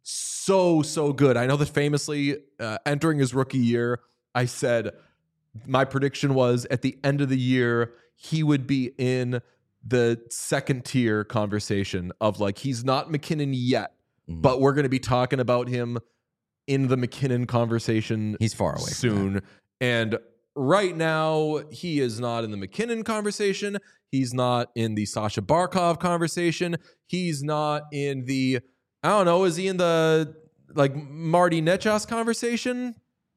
so good. I know that famously entering his rookie year, I said my prediction was at the end of the year, he would be in the second tier conversation of like, he's not McKinnon yet, but we're going to be talking about him in the McKinnon conversation. He's far away soon. And right now, he is not in the McKinnon conversation. He's not in the Sasha Barkov conversation. He's not in the, I don't know, is he in the like Marty Nechas conversation?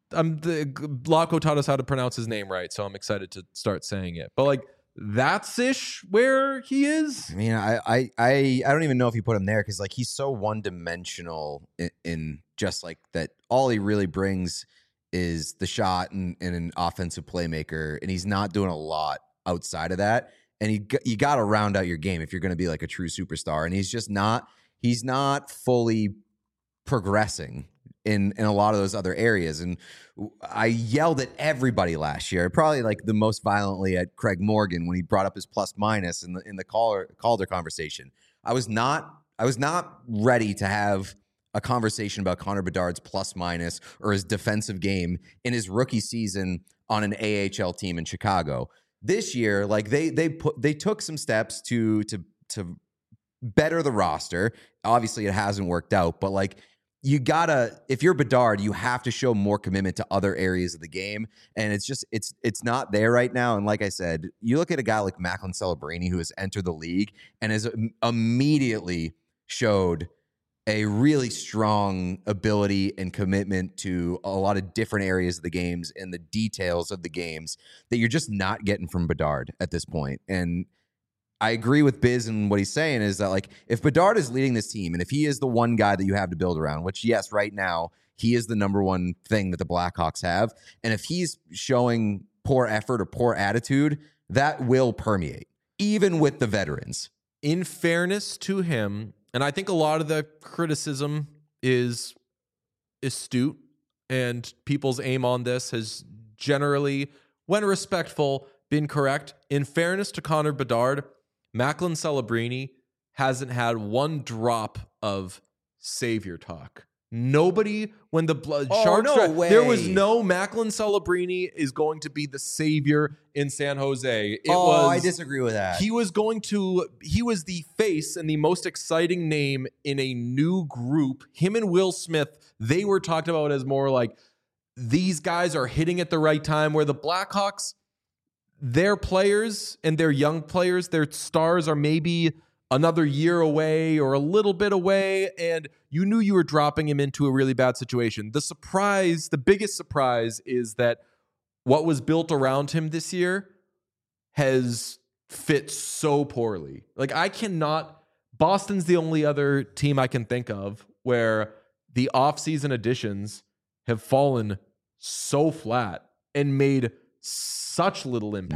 Locko taught us how to pronounce his name right, so I'm excited to start saying it. But like, that's ish where he is. I mean, I don't even know if you put him there because like he's so one-dimensional in just like that. All he really brings is the shot and an offensive playmaker, and he's not doing a lot outside of that. And you got to round out your game if you're going to be like a true superstar. And he's just not. He's not fully progressing in a lot of those other areas. And I yelled at everybody last year, probably like the most violently at Craig Morgan when he brought up his plus minus in the Calder conversation. I was not ready to have a conversation about Connor Bedard's plus minus or his defensive game in his rookie season on an AHL team in Chicago. This year, like they took some steps to better the roster. Obviously, it hasn't worked out, but like, you gotta, if you're Bedard, you have to show more commitment to other areas of the game. And it's just, it's not there right now. And like I said, you look at a guy like Macklin Celebrini, who has entered the league and has immediately showed a really strong ability and commitment to a lot of different areas of the games and the details of the games that you're just not getting from Bedard at this point. And I agree with Biz and what he's saying is that like if Bedard is leading this team and if he is the one guy that you have to build around, which yes, right now he is the number one thing that the Blackhawks have, and if he's showing poor effort or poor attitude, that will permeate even with the veterans. In fairness to him, and I think a lot of the criticism is astute, and people's aim on this has generally when respectful, been correct. In fairness to Connor Bedard, Macklin Celebrini hasn't had one drop of savior talk. Nobody, when the Sharks, there was no Macklin Celebrini is going to be the savior in San Jose. I disagree with that. He was the face and the most exciting name in a new group. Him and Will Smith, they were talked about as more like, these guys are hitting at the right time, where the Blackhawks, their players and their young players, their stars are maybe another year away or a little bit away, and you knew you were dropping him into a really bad situation. The biggest surprise is that what was built around him this year has fit so poorly. Like, Boston's the only other team I can think of where the offseason additions have fallen so flat and made such little impact.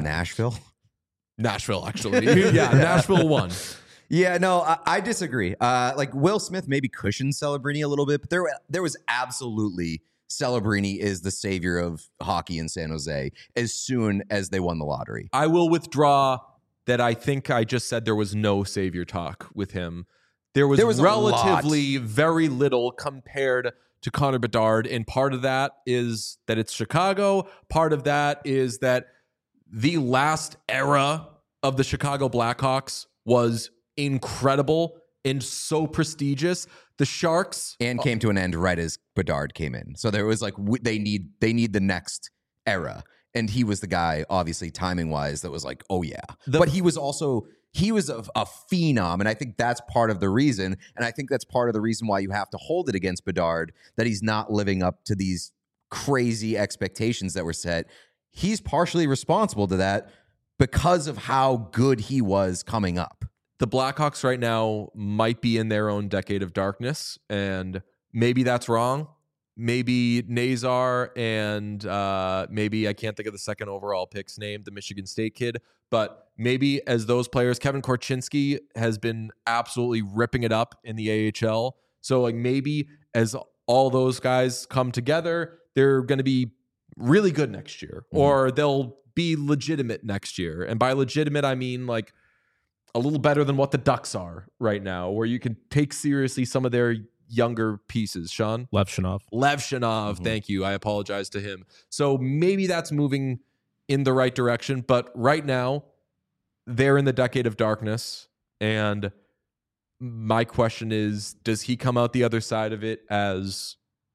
Nashville, actually. Yeah, Nashville won. Yeah, no, I disagree. Like, Will Smith maybe cushioned Celebrini a little bit, but there was absolutely Celebrini is the savior of hockey in San Jose as soon as they won the lottery. I will withdraw that. I think I just said there was no savior talk with him. There was relatively very little compared to Connor Bedard, and part of that is that it's Chicago. Part of that is that the last era of the Chicago Blackhawks was incredible and so prestigious. The Sharks came to an end right as Bedard came in. So there was like, they need the next era. And he was the guy, obviously, timing wise, that was like, oh yeah. But he was a phenom. And I think that's part of the reason. And I think that's part of the reason why you have to hold it against Bedard, that he's not living up to these crazy expectations that were set. He's partially responsible to that because of how good he was coming up. The Blackhawks right now might be in their own decade of darkness, and maybe that's wrong. Maybe Nazar and maybe I can't think of the second overall pick's name, the Michigan State kid, but maybe as those players, Kevin Korchinski has been absolutely ripping it up in the AHL. So like maybe as all those guys come together, they're going to be really good next year, or they'll be legitimate next year. And by legitimate, I mean like a little better than what the Ducks are right now, where you can take seriously some of their younger pieces. Sean? Lev Shanov. Thank you. I apologize to him. So maybe that's moving in the right direction. But right now, they're in the decade of darkness. And my question is, does he come out the other side of it as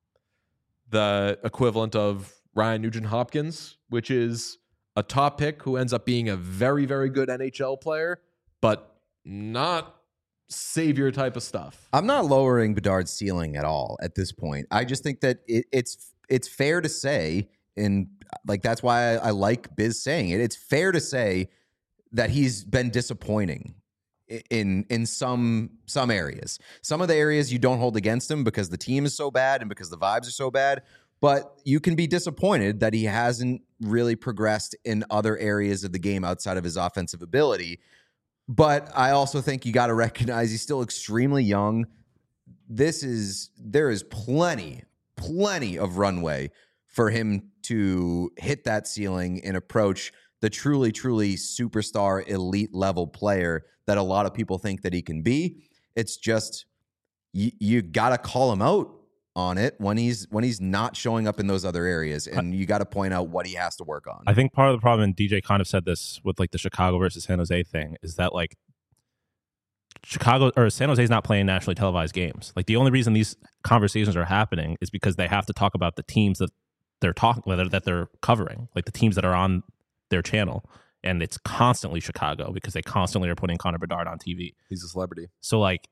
the equivalent of Ryan Nugent-Hopkins, which is a top pick who ends up being a very, very good NHL player, but not savior type of stuff? I'm not lowering Bedard's ceiling at all at this point. I just think that it's fair to say, and like that's why I like Biz saying it. It's fair to say that he's been disappointing in some areas. Some of the areas you don't hold against him because the team is so bad and because the vibes are so bad. But you can be disappointed that he hasn't really progressed in other areas of the game outside of his offensive ability. But I also think you got to recognize he's still extremely young. There is plenty of runway for him to hit that ceiling and approach the truly, truly superstar elite level player that a lot of people think that he can be. It's just you got to call him out on it when he's not showing up in those other areas, and you got to point out what he has to work on. I think part of the problem, and DJ kind of said this with like the Chicago versus San Jose thing, is that like Chicago or San Jose is not playing nationally televised games. Like the only reason these conversations are happening is because they have to talk about the teams that they're covering, like the teams that are on their channel, and it's constantly Chicago because they constantly are putting Connor Bedard on TV. He's a celebrity. So like,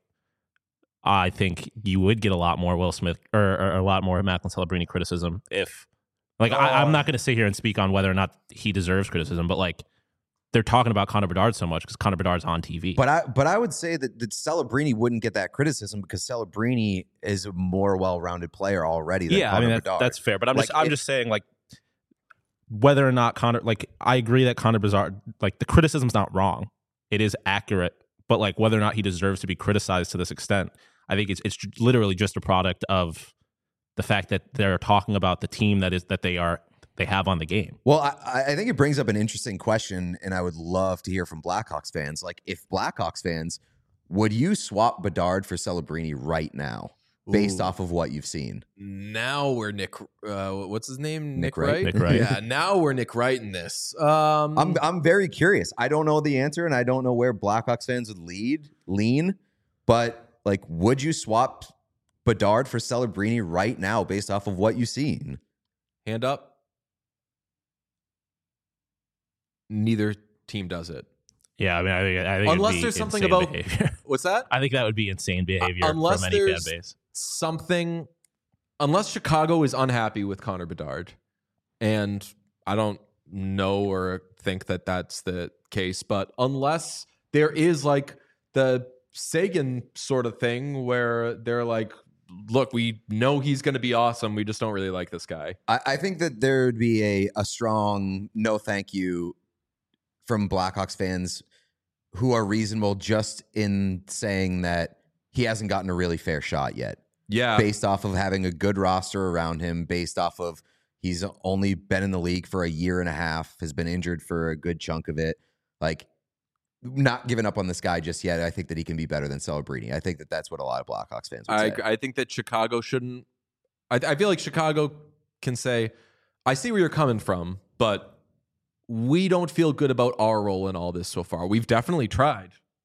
I think you would get a lot more Will Smith or a lot more Macklin Celebrini criticism if, like, I'm not going to sit here and speak on whether or not he deserves criticism, but like they're talking about Connor Bedard so much because Connor Bedard's on TV. But I would say that Celebrini wouldn't get that criticism because Celebrini is a more well-rounded player already than Connor Bedard. That's fair. But I'm just saying, like, whether or not Connor, like, I agree that Connor Bedard, like, the criticism's not wrong. It is accurate. But like whether or not he deserves to be criticized to this extent, I think it's literally just a product of the fact that they're talking about the team that they are they have on the game. Well, I think it brings up an interesting question, and I would love to hear from Blackhawks fans. Like, if Blackhawks fans, would you swap Bedard for Celebrini right now, based off of what you've seen? Now we're Nick. What's his name? Nick Wright. Nick Wright. Yeah. Now we're Nick Wright in this. I'm very curious. I don't know the answer, and I don't know where Blackhawks fans would lean. But like, would you swap Bedard for Celebrini right now, based off of what you've seen? Hand up. Neither team does it. Yeah, I mean, I think unless it'd be there's something insane about behavior. What's that? I think that would be insane behavior unless from any fan there's base. something, unless Chicago is unhappy with Connor Bedard, and I don't know or think that that's the case, but unless there is like the Sagan sort of thing where they're like, look, we know he's going to be awesome, we just don't really like this guy. I think that there would be a strong no thank you from Blackhawks fans who are reasonable just in saying that he hasn't gotten a really fair shot yet. Yeah. Based off of having a good roster around him, based off of he's only been in the league for a year and a half, has been injured for a good chunk of it. Like, not giving up on this guy just yet. I think that he can be better than Celebrini. I think that that's what a lot of Blackhawks fans would say. I think that Chicago shouldn't. I feel like Chicago can say, I see where you're coming from, but we don't feel good about our role in all this so far. We've definitely tried.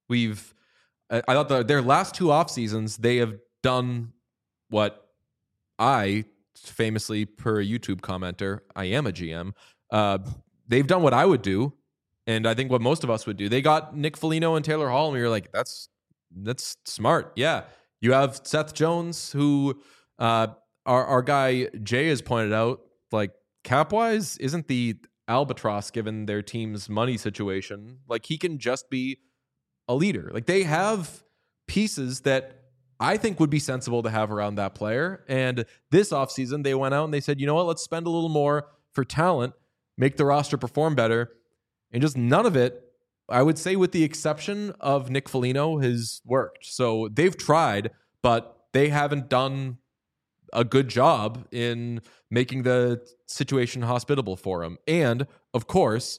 I thought their last two off seasons, they have done what I famously, per YouTube commenter, I am a GM. They've done what I would do, and I think what most of us would do. They got Nick Foligno and Taylor Hall, and we were like, that's smart. Yeah, you have Seth Jones, who our guy Jay has pointed out, like, cap wise, isn't the albatross given their team's money situation. Like, he can just be a leader. Like, they have pieces that I think would be sensible to have around that player. And this offseason, they went out and they said, you know what, let's spend a little more for talent, make the roster perform better. And just none of it, I would say, with the exception of Nick Foligno, has worked. So they've tried, but they haven't done a good job in making the situation hospitable for him. And of course,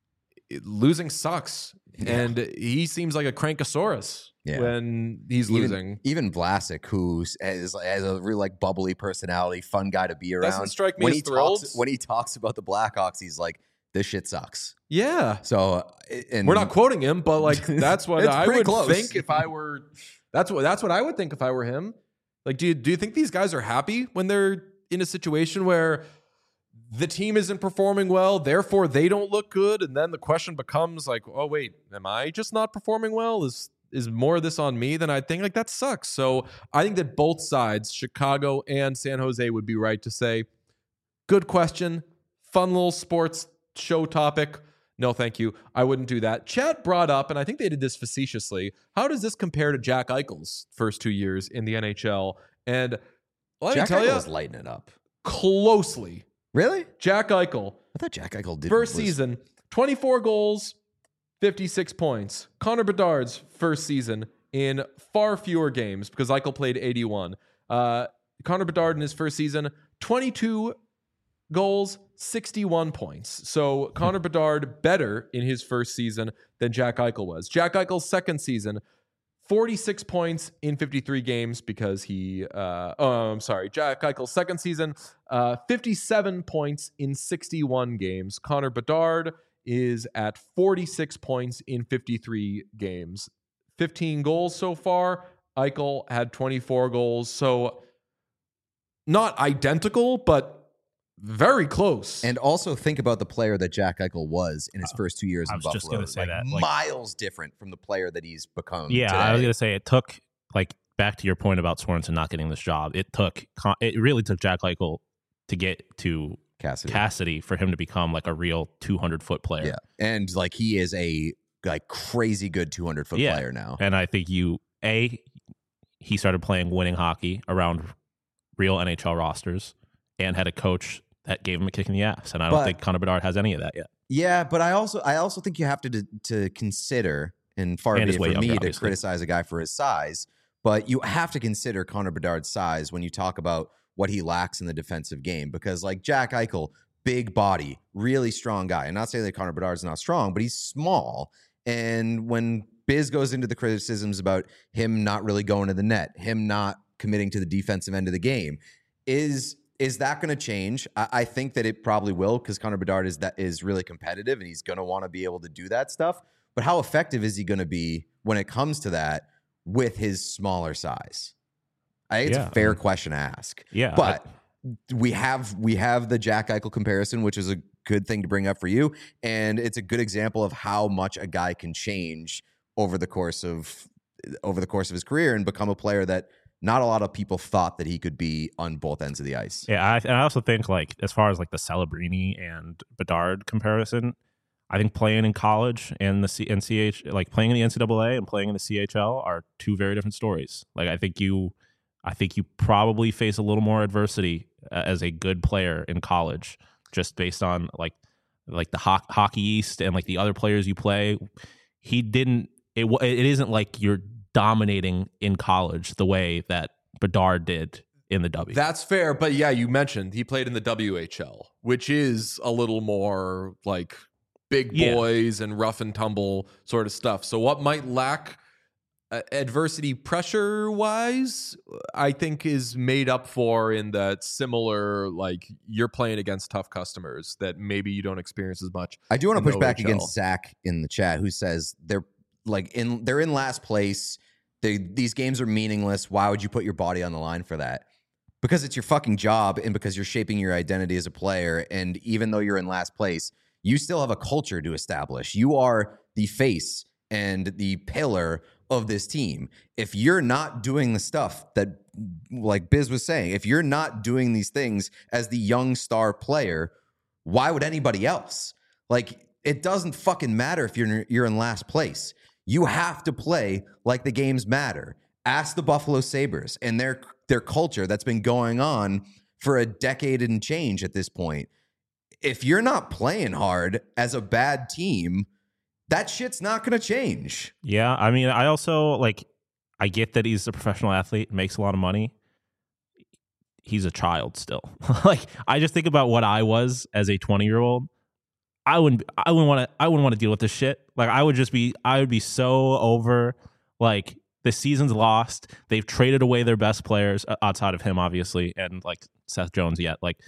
losing sucks. Yeah. And he seems like a crankosaurus when he's losing. Even Vlasic, who has a really like bubbly personality, fun guy to be around. Doesn't strike me as thrilled. When he talks about the Blackhawks, he's like, this shit sucks. Yeah. So, and we're not quoting him, but like, that's what I would think if I were, that's what I would think if I were him. Like, do you think these guys are happy when they're in a situation where the team isn't performing well, therefore they don't look good, and then the question becomes like, oh wait, am I just not performing well? Is more of this on me than I think? Like, that sucks. So I think that both sides, Chicago and San Jose, would be right to say, good question, fun little sports show topic. No, thank you. I wouldn't do that. Chat brought up, and I think they did this facetiously, how does this compare to Jack Eichel's first 2 years in the NHL? And let me tell you, was lighting it up closely. Really? Jack Eichel. I thought Jack Eichel did. First season, 24 goals, 56 points. Connor Bedard's first season in far fewer games because Eichel played 81. Connor Bedard in his first season, 22 goals, 61 points. So Connor Bedard better in his first season than Jack Eichel was. Jack Eichel's second season, 46 points in 53 games because Jack Eichel's second season, 57 points in 61 games. Connor Bedard is at 46 points in 53 games. 15 goals so far. Eichel had 24 goals. So not identical, but very close. And also think about the player that Jack Eichel was in his first 2 years in Buffalo. I was just going to say that. Like, miles different from the player that he's become today. I was going to say it took, like, back to your point about Sorensen not getting this job, it really took Jack Eichel to get to Cassidy for him to become like a real 200-foot player. Yeah, and like he is a like crazy good 200-foot player now. And I think he started playing winning hockey around real NHL rosters and had a coach that gave him a kick in the ass. And I don't think Connor Bedard has any of that yet. Yeah, but I also think you have to consider, and far be it for me to criticize a guy for his size, but you have to consider Connor Bedard's size when you talk about what he lacks in the defensive game. Because like Jack Eichel, big body, really strong guy. I'm not saying that Connor Bedard's not strong, but he's small. And when Biz goes into the criticisms about him not really going to the net, him not committing to the defensive end of the game, is that going to change? I think that it probably will, because Connor Bedard is really competitive and he's going to want to be able to do that stuff. But how effective is he going to be when it comes to that with his smaller size? I think it's a fair question to ask. Yeah, but we have the Jack Eichel comparison, which is a good thing to bring up for you, and it's a good example of how much a guy can change over the course of his career and become a player that not a lot of people thought that he could be on both ends of the ice. Yeah, and I also think, like, as far as like the Celebrini and Bedard comparison, I think playing in college and like playing in the NCAA and playing in the CHL are two very different stories. Like, I think you probably face a little more adversity as a good player in college, just based on like the Hockey East and like the other players you play. It isn't like you're dominating in college the way that Bedard did in the W. That's fair, but yeah, you mentioned he played in the WHL, which is a little more like big boys and rough and tumble sort of stuff. So what might lack adversity pressure wise, I think is made up for in that similar, like, you're playing against tough customers that maybe you don't experience as much. I do want to push back against Zach in the chat, who says they're in last place. These games are meaningless. Why would you put your body on the line for that? Because it's your fucking job, and because you're shaping your identity as a player. And even though you're in last place, you still have a culture to establish. You are the face and the pillar of this team. If you're not doing the stuff that, like Biz was saying, if you're not doing these things as the young star player, why would anybody else? Like, it doesn't fucking matter if you're in last place. You have to play like the games matter. Ask the Buffalo Sabres and their culture that's been going on for a decade and change at this point. If you're not playing hard as a bad team, that shit's not going to change. Yeah, I mean, I also, like, I get that he's a professional athlete, makes a lot of money. He's a child still. Like, I just think about what I was as a 20-year-old. I wouldn't want to deal with this shit. Like, I would be so over, like, the season's lost. They've traded away their best players outside of him, obviously, and like Seth Jones yet. Like,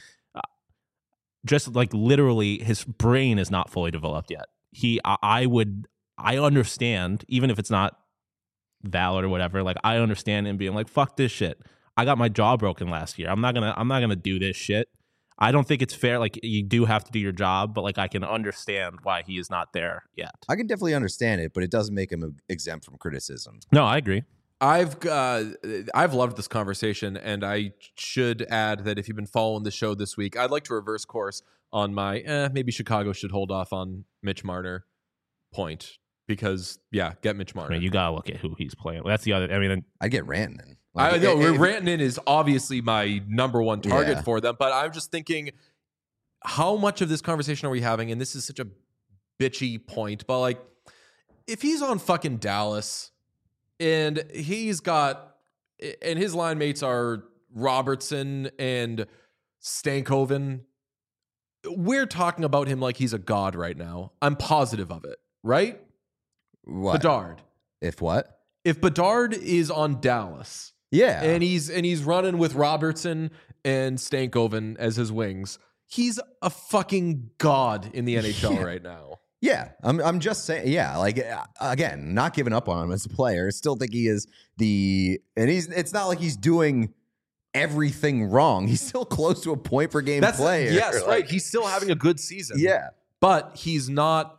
just like literally his brain is not fully developed yet. I understand, even if it's not valid or whatever, like, I understand him being like, fuck this shit. I got my jaw broken last year. I'm not gonna do this shit. I don't think it's fair. Like, you do have to do your job, but like, I can understand why he is not there yet. I can definitely understand it, but it doesn't make him exempt from criticism. No, I agree. I've loved this conversation, and I should add that if you've been following the show this week, I'd like to reverse course on my maybe Chicago should hold off on Mitch Marner point, because get Mitch Marner. I mean, you gotta look at who he's playing. That's the other. I mean, I'd get Rantanen. I know Rantanen is obviously my number one target for them, but I'm just thinking, how much of this conversation are we having? And this is such a bitchy point, but like, if he's on fucking Dallas and he's got, and his line mates are Robertson and Stankoven, we're talking about him like he's a god right now. I'm positive of it, right? What? Bedard. If what? If Bedard is on Dallas, yeah, and he's running with Robertson and Stankoven as his wings, he's a fucking god in the NHL right now. Yeah, I'm just saying. Yeah, like, again, not giving up on him as a player. Still think he is it's not like he's doing everything wrong. He's still close to a point per game player. Yes, like, right. He's still having a good season. Yeah, but he's not.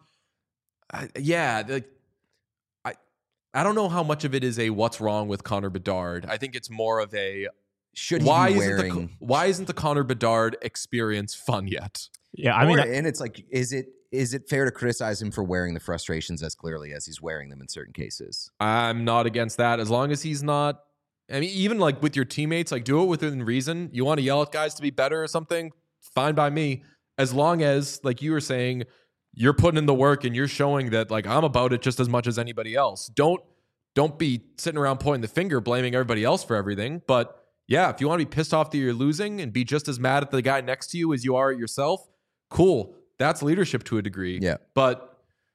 I don't know how much of it is a what's wrong with Connor Bedard. I think it's more of a why isn't the Connor Bedard experience fun yet? Yeah, I mean, and it's like, is it fair to criticize him for wearing the frustrations as clearly as he's wearing them in certain cases? I'm not against that, as long as he's not. I mean, even like with your teammates, like, do it within reason. You want to yell at guys to be better or something? Fine by me, as long as, like you were saying, you're putting in the work and you're showing that, like, I'm about it just as much as anybody else. Don't be sitting around pointing the finger, blaming everybody else for everything. But yeah, if you want to be pissed off that you're losing and be just as mad at the guy next to you as you are at yourself, Cool. That's leadership to a degree. Yeah. But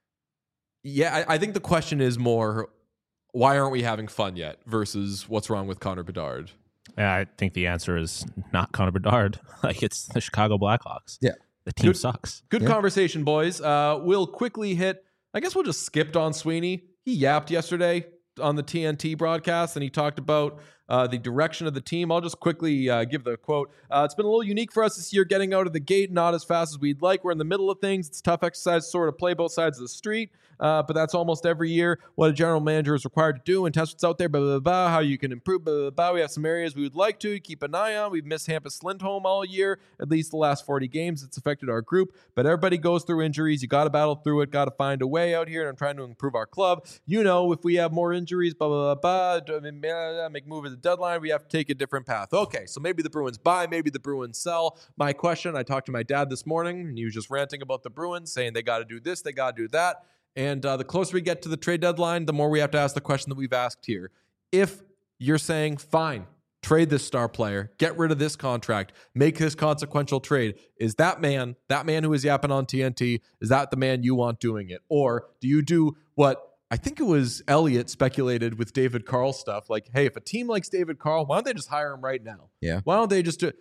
yeah, I think the question is more, why aren't we having fun yet versus what's wrong with Connor Bedard? Yeah, I think the answer is not Connor Bedard. Like, it's the Chicago Blackhawks. Yeah. The team sucks. Good conversation, boys. We'll quickly hit, I guess we'll just skip Don Sweeney. He yapped yesterday on the TNT broadcast, and he talked about the direction of the team. I'll just quickly give the quote. It's been a little unique for us this year, getting out of the gate not as fast as we'd like. We're in the middle of things. It's tough exercise to sort of play both sides of the street, but that's almost every year what a general manager is required to do and test what's out there, blah, blah, blah, how you can improve, blah, blah, blah. We have some areas we would like to keep an eye on. We've missed Hampus Lindholm all year, at least the last 40 games. It's affected our group, but everybody goes through injuries. You got to battle through it, got to find a way out here, and I'm trying to improve our club. You know, if we have more injuries, blah, blah, blah, blah, make move at the deadline, we have to take a different path. Okay, so maybe the Bruins buy, maybe the Bruins sell. My question, I talked to my dad this morning, and he was just ranting about the Bruins, saying they got to do this, they got to do that. And the closer we get to the trade deadline, the more we have to ask the question that we've asked here. If you're saying, fine, trade this star player, get rid of this contract, make this consequential trade, is that man who is yapping on TNT, is that the man you want doing it? Or do you do what I think it was Elliott speculated with David Carl stuff, like, hey, if a team likes David Carl, why don't they just hire him right now? Yeah. Why don't they just do it?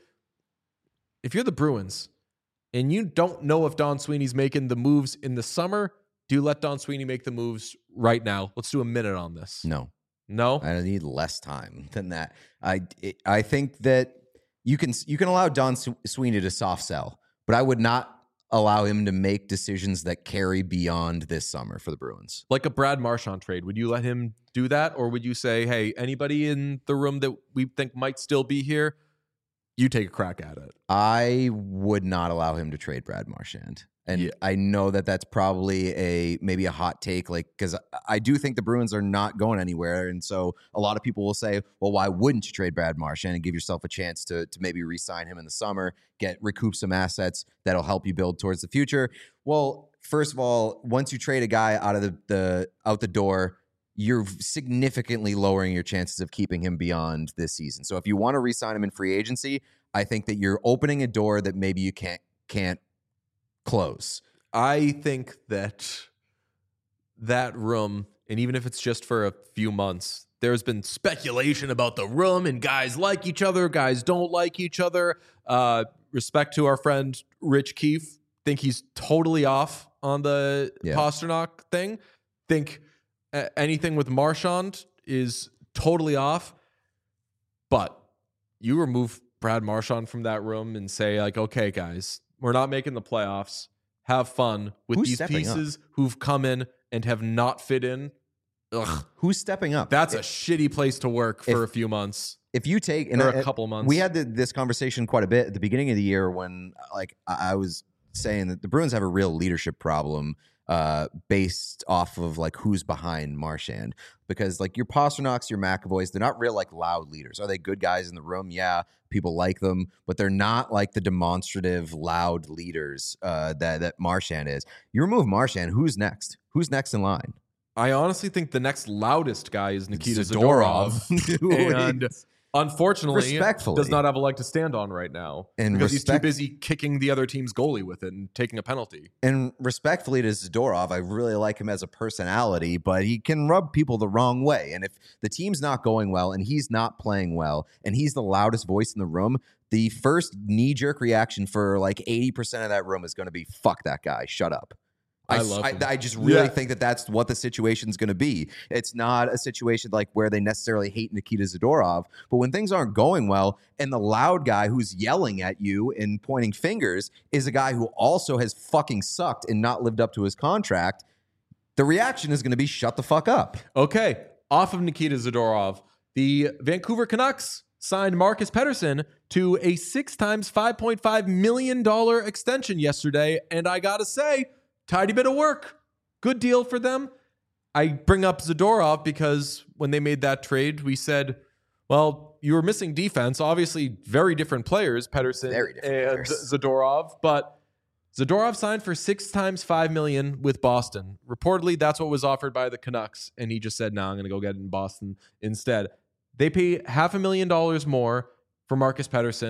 If you're the Bruins and you don't know if Don Sweeney's making the moves in the summer, do you let Don Sweeney make the moves right now? Let's do a minute on this. No. I need less time than that. I think that you can allow Don Sweeney to soft sell, but I would not allow him to make decisions that carry beyond this summer for the Bruins. Like a Brad Marchand trade. Would you let him do that? Or would you say, hey, anybody in the room that we think might still be here, you take a crack at it? I would not allow him to trade Brad Marchand. And I know that that's probably maybe a hot take, like, because I do think the Bruins are not going anywhere. And so a lot of people will say, well, why wouldn't you trade Brad Marchand and give yourself a chance to maybe re-sign him in the summer, recoup some assets that'll help you build towards the future? Well, first of all, once you trade a guy out of out the door, you're significantly lowering your chances of keeping him beyond this season. So if you want to re-sign him in free agency, I think that you're opening a door that maybe you can't close. I think that room, and even if it's just for a few months, there's been speculation about the room and guys like each other, guys don't like each other. Respect to our friend Rich Keefe. Think he's totally off on the Pastrnak thing. Think anything with Marchand is totally off. But you remove Brad Marchand from that room and say, like, okay, guys, we're not making the playoffs. Have fun with these pieces who've come in and have not fit in. Ugh. Who's stepping up? That's a shitty place to work for a few months. If you take a couple of months. We had this conversation quite a bit at the beginning of the year when, like, I was saying that the Bruins have a real leadership problem based off of like who's behind Marchand, because like your Pastrnaks, your McAvoys, they're not real like loud leaders. Are they good guys in the room? Yeah, people like them, but they're not like the demonstrative loud leaders that Marchand is. You remove Marchand, who's next? Who's next in line? I honestly think the next loudest guy is Nikita Zadorov. And unfortunately, does not have a leg to stand on right now because he's too busy kicking the other team's goalie with it and taking a penalty. And respectfully to Zadorov, I really like him as a personality, but he can rub people the wrong way. And if the team's not going well and he's not playing well and he's the loudest voice in the room, the first knee-jerk reaction for like 80% of that room is going to be, fuck that guy, shut up. I just really think that that's what the situation's going to be. It's not a situation like where they necessarily hate Nikita Zadorov, but when things aren't going well and the loud guy who's yelling at you and pointing fingers is a guy who also has fucking sucked and not lived up to his contract, the reaction is going to be shut the fuck up. Okay, off of Nikita Zadorov, the Vancouver Canucks signed Marcus Pettersson to a 6 times $5.5 million extension yesterday, and I gotta say, tidy bit of work. Good deal for them. I bring up Zadorov because when they made that trade, we said, well, you were missing defense. Obviously, very different players, Pettersson and Zadorov. But Zadorov signed for 6 times $5 million with Boston. Reportedly, that's what was offered by the Canucks. And he just said, no, I'm going to go get it in Boston instead. They pay $500,000 more for Marcus Pettersson,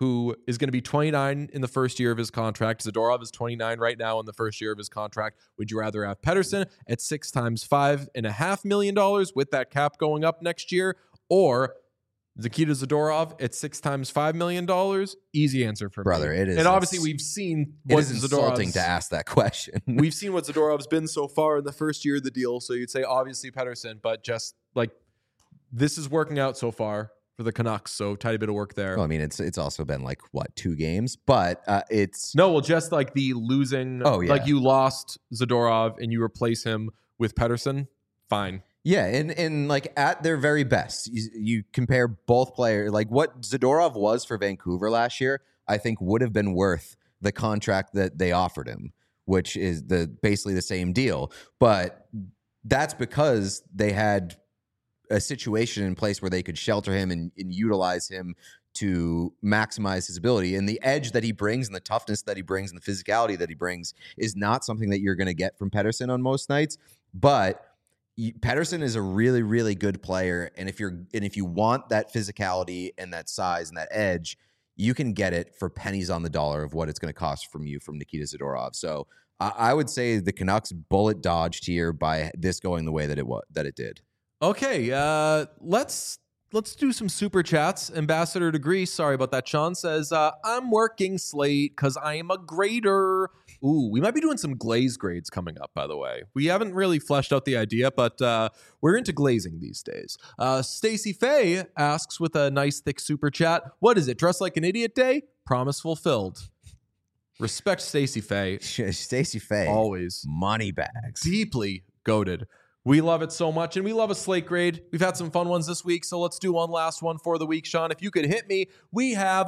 who is going to be 29 in the first year of his contract. Zadorov is 29 right now in the first year of his contract. Would you rather have Pettersson at 6 times $5.5 million with that cap going up next year, or Nikita Zadorov at 6 times $5 million? Easy answer for Brother, me. it is. And obviously, we've seen It what is insulting to ask that question. We've seen what Zadorov's been so far in the first year of the deal. So you'd say obviously Pettersson, but just like this is working out so far for the Canucks. So tidy bit of work there. Well, I mean, it's also been like what, 2 games, but it's Just like the losing. Oh, yeah. Like you lost Zadorov and you replace him with Pettersson. Fine. Yeah, and like at their very best, you compare both players. Like what Zadorov was for Vancouver last year, I think would have been worth the contract that they offered him, which is basically the same deal. But that's because they had a situation in place where they could shelter him and utilize him to maximize his ability. And the edge that he brings and the toughness that he brings and the physicality that he brings is not something that you're going to get from Pettersson on most nights. But Pettersson is a really, really good player. And if you want that physicality and that size and that edge, you can get it for pennies on the dollar of what it's going to cost from Nikita Zadorov. So I would say the Canucks bullet dodged here by this going the way that it did. Okay, let's do some super chats. Ambassador to Greece, sorry about that. Sean says, I'm working Slate because I am a grader. Ooh, we might be doing some glaze grades coming up, by the way. We haven't really fleshed out the idea, but we're into glazing these days. Stacy Faye asks with a nice thick super chat, what is it, Dress Like an Idiot Day? Promise fulfilled. Respect Stacy Faye. Stacy Faye. Always. Money bags. Deeply goated. We love it so much, and we love a slate grade. We've had some fun ones this week, so let's do one last one for the week, Sean. If you could hit me, we have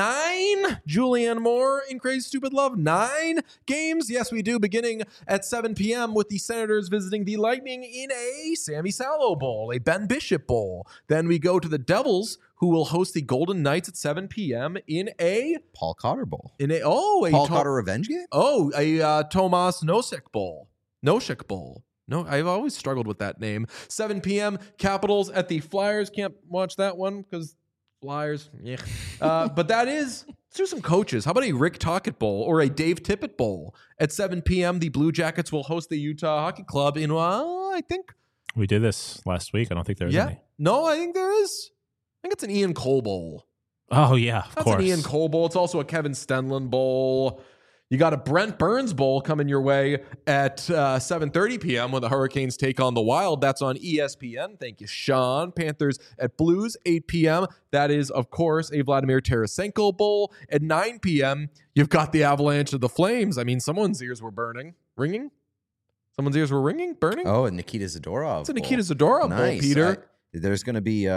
9 Julianne Moore in Crazy Stupid Love. 9 games. Yes, we do, beginning at 7 p.m. with the Senators visiting the Lightning in a Sammy Salo Bowl, a Ben Bishop Bowl. Then we go to the Devils, who will host the Golden Knights at 7 p.m. in a Paul Cotter Bowl. Paul Cotter revenge game? Oh, a Tomas Nosek Bowl. Noshik Bowl. No, I've always struggled with that name. 7 p.m. Capitals at the Flyers. Can't watch that one because Flyers. Yeah. But let's do some coaches. How about a Rick Tocchet Bowl or a Dave Tippett Bowl? At 7 p.m., the Blue Jackets will host the Utah Hockey Club in, I think. We did this last week. I don't think there's any. No, I think there is. I think it's an Ian Cole Bowl. Oh, yeah, of course. That's an Ian Cole Bowl. It's also a Kevin Stenlund Bowl. You got a Brent Burns Bowl coming your way at 7:30 p.m. when the Hurricanes take on the Wild. That's on ESPN. Thank you, Sean. Panthers at Blues, 8 p.m. That is, of course, a Vladimir Tarasenko Bowl. At 9 p.m., you've got the Avalanche of the Flames. I mean, someone's ears were ringing. Someone's ears were burning. Oh, and Nikita Zadorov. It's a Nikita Zadorov Bowl, Peter. There's going to be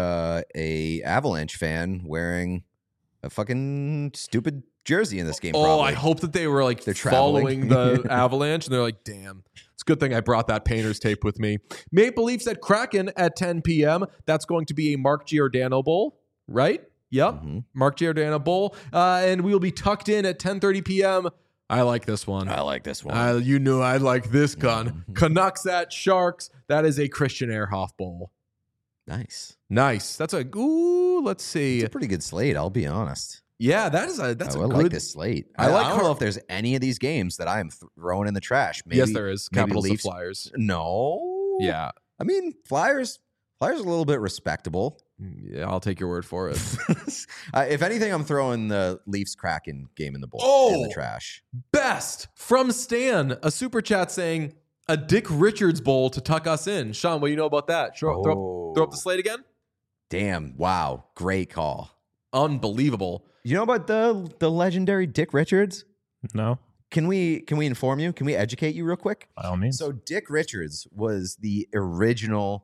a Avalanche fan wearing a fucking stupid jersey in this game. Probably. I hope that they were like they're following the Avalanche and they're like, damn, it's a good thing I brought that painter's tape with me. Maple Leafs at Kraken at 10 p.m. That's going to be a Mark Giordano Bowl, right? Yep. Mm-hmm. Mark Giordano Bowl. And we will be tucked in at 10:30 p.m. I like this one. You knew I like this gun. Canucks at Sharks. That is a Christian Ehrhoff Bowl. Nice. That's let's see. It's a pretty good slate, I'll be honest. Yeah, that's I a good. like this slate. I don't know if there's any of these games that I am throwing in the trash. Maybe, yes, there is. Capitals Leafs. of Flyers. No. Yeah. I mean, Flyers a little bit respectable. Yeah, I'll take your word for it. If anything, I'm throwing the Leafs Kraken game in the in the trash. Best from Stan, a super chat saying a Dick Richards Bowl to tuck us in. Sean, what do you know about that? Throw up the slate again. Damn! Wow, great call. Unbelievable. You know about the legendary Dick Richards? No. Can we inform you? Can we educate you real quick? By all means. So Dick Richards was the original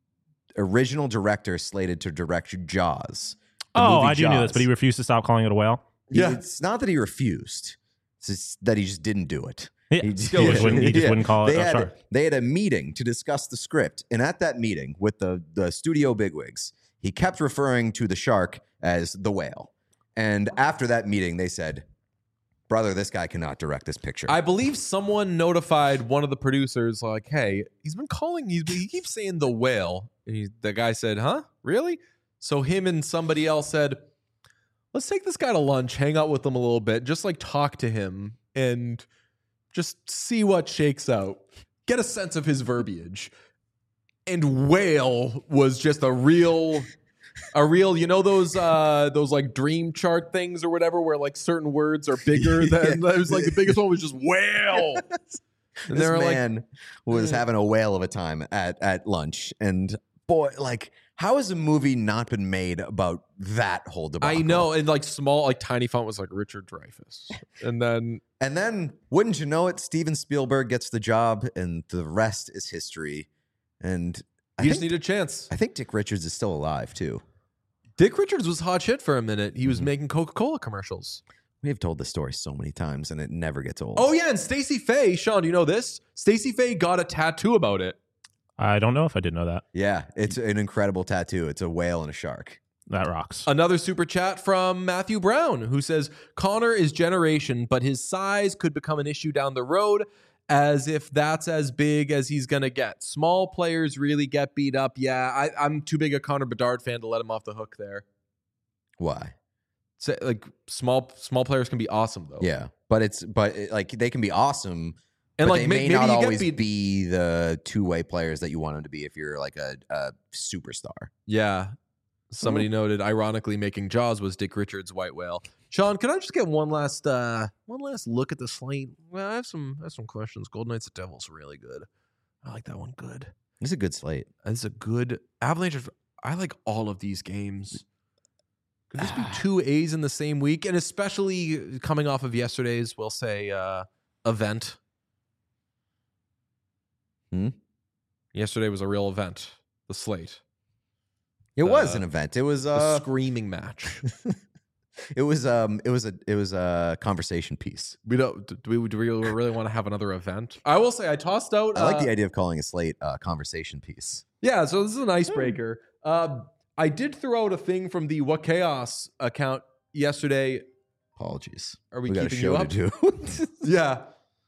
director slated to direct Jaws. I do know this, but he refused to stop calling it a whale. Yeah, it's not that he refused; it's just that he just didn't do it. Yeah. He just wouldn't call it. They had a meeting to discuss the script, and at that meeting with the studio bigwigs, he kept referring to the shark as the whale. And after that meeting, they said, brother, this guy cannot direct this picture. I believe someone notified one of the producers, like, hey, he keeps saying the whale. And the guy said, huh? Really? So him and somebody else said, let's take this guy to lunch, hang out with him a little bit, just like talk to him and just see what shakes out. Get a sense of his verbiage. And whale was just a real, you know, those like dream chart things or whatever, where like certain words are bigger than, it was like the biggest one was just whale. And this man was having a whale of a time at lunch. And boy, like, how has a movie not been made about that whole debacle? I know, and like small, like tiny font was like Richard Dreyfuss. And then wouldn't you know it, Steven Spielberg gets the job and the rest is history. And you just need a chance. I think Dick Richards is still alive too. Dick Richards was hot shit for a minute. He was making Coca-Cola commercials. We have told this story so many times and it never gets old. Oh yeah, and Stacey Faye, Sean, do you know this? Stacey Faye got a tattoo about it. I don't know if I did know that. Yeah, it's an incredible tattoo. It's a whale and a shark. That rocks. Another super chat from Matthew Brown, who says, Connor is generation, but his size could become an issue down the road, as if that's as big as he's going to get. Small players really get beat up. Yeah, I'm too big a Connor Bedard fan to let him off the hook there. Why? So, like, small players can be awesome, though. Yeah, but they can be awesome. And but like they may maybe not you always get beat. be the two-way players that you want them to be if you're like a superstar. Yeah. Somebody noted, ironically, making Jaws was Dick Richards' White Whale. Sean, can I just get one last look at the slate? Well, I have some questions. Golden Knights at Devils, really good. I like that one. Good. It's a good slate. It's a good Avalanche. I like all of these games. Could this be two A's in the same week? And especially coming off of yesterday's, we'll say, event. Yesterday was a real event. The slate. It was an event. It was a screaming match. It was a conversation piece. Do we really want to have another event? I will say I tossed out. I like the idea of calling a slate a conversation piece. Yeah, so this is an icebreaker. I did throw out a thing from the What Chaos account yesterday. Apologies. Are we got keeping a show you up? to do. Yeah.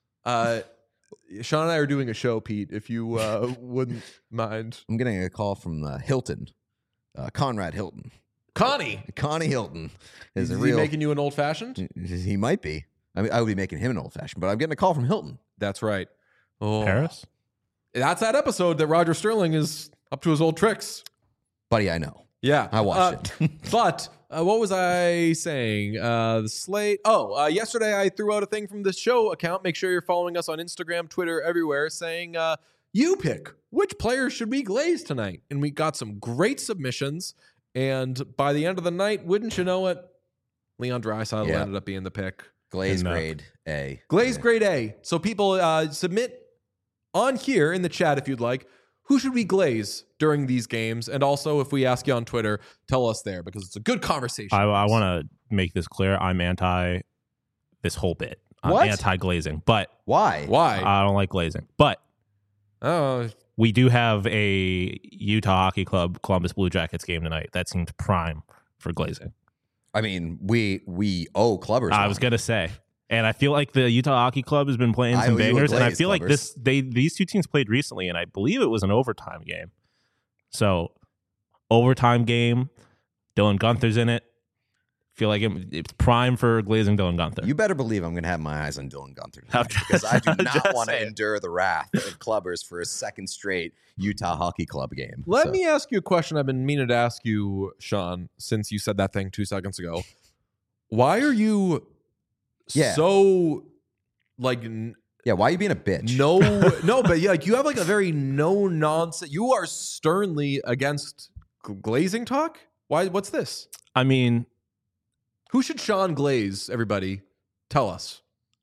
Sean and I are doing a show, Pete, if you wouldn't mind. I'm getting a call from Hilton, Conrad Hilton. Connie Hilton is he real. Making you an old fashioned? He might be. I mean, I would be making him an old fashioned, but I'm getting a call from Hilton. That's right. Oh, Paris? That's that episode that Roger Sterling is up to his old tricks. Buddy, I know. Yeah, I watched it. But what was I saying? The slate. Yesterday I threw out a thing from the show account. Make sure you're following us on Instagram, Twitter, everywhere, saying you pick which players should we glaze tonight. And we got some great submissions. And by the end of the night, wouldn't you know it, Leon Draisaitl ended up being the pick. Glaze grade A. Glaze grade A. So people submit on here in the chat if you'd like. Who should we glaze during these games? And also, if we ask you on Twitter, tell us there because it's a good conversation. I want to make this clear. I'm anti this whole bit. I'm anti-glazing. But why? I don't like glazing. But we do have a Utah Hockey Club Columbus Blue Jackets game tonight. That seemed prime for glazing. I mean, we owe clubbers. I was going to say. And I feel like the Utah Hockey Club has been playing some bangers, and I feel like these two teams played recently, and I believe it was an overtime game. So, overtime game, Dylan Guenther's in it. Feel like it's prime for glazing Dylan Guenther. You better believe I'm going to have my eyes on Dylan Guenther tonight, because I do not want to endure the wrath of clubbers for a second straight Utah Hockey Club game. Let me ask you a question I've been meaning to ask you, Sean, since you said that thing 2 seconds ago. Why are you... so like why are you being a bitch? No, but like you have like a very no nonsense. You are sternly against glazing talk. Why? What's this? I mean, who should Sean glaze? Everybody, tell us.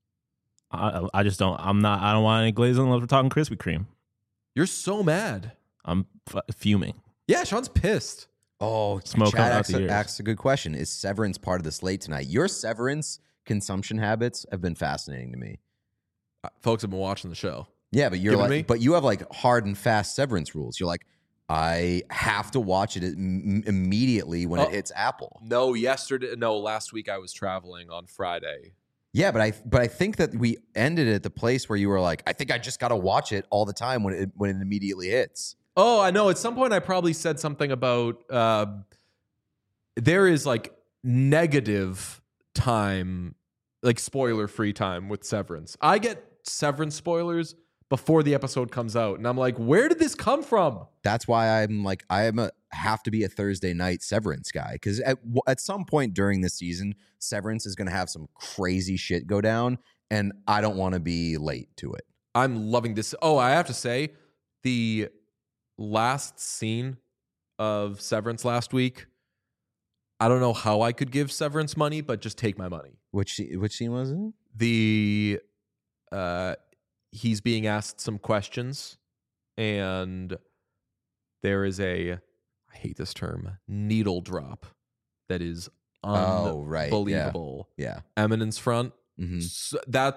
I just don't. I don't want any glazing unless we're talking Krispy Kreme. You're so mad. I'm fuming. Yeah, Sean's pissed. Oh, smoke Chad asks a good question. Is Severance part of the slate tonight? Your Severance consumption habits have been fascinating to me. Folks have been watching the show. Yeah, but but you have like hard and fast Severance rules. You're like, I have to watch it immediately when it hits Apple. Last week I was traveling on Friday. Yeah, but I think that we ended at the place where you were like, I think I just got to watch it all the time when it immediately hits. Oh, I know. At some point I probably said something about there is like negative time, like spoiler-free time with Severance. I get Severance spoilers before the episode comes out, and I'm like, where did this come from? That's why I'm like, have to be a Thursday night Severance guy, because at some point during this season, Severance is going to have some crazy shit go down, and I don't want to be late to it. I'm loving this. Oh, I have to say, the last scene of Severance last week, I don't know how I could give Severance money, but just take my money. Which scene was it? He's being asked some questions, and there is I hate this term, needle drop that is unbelievable. Yeah. Eminence Front. Mm-hmm. So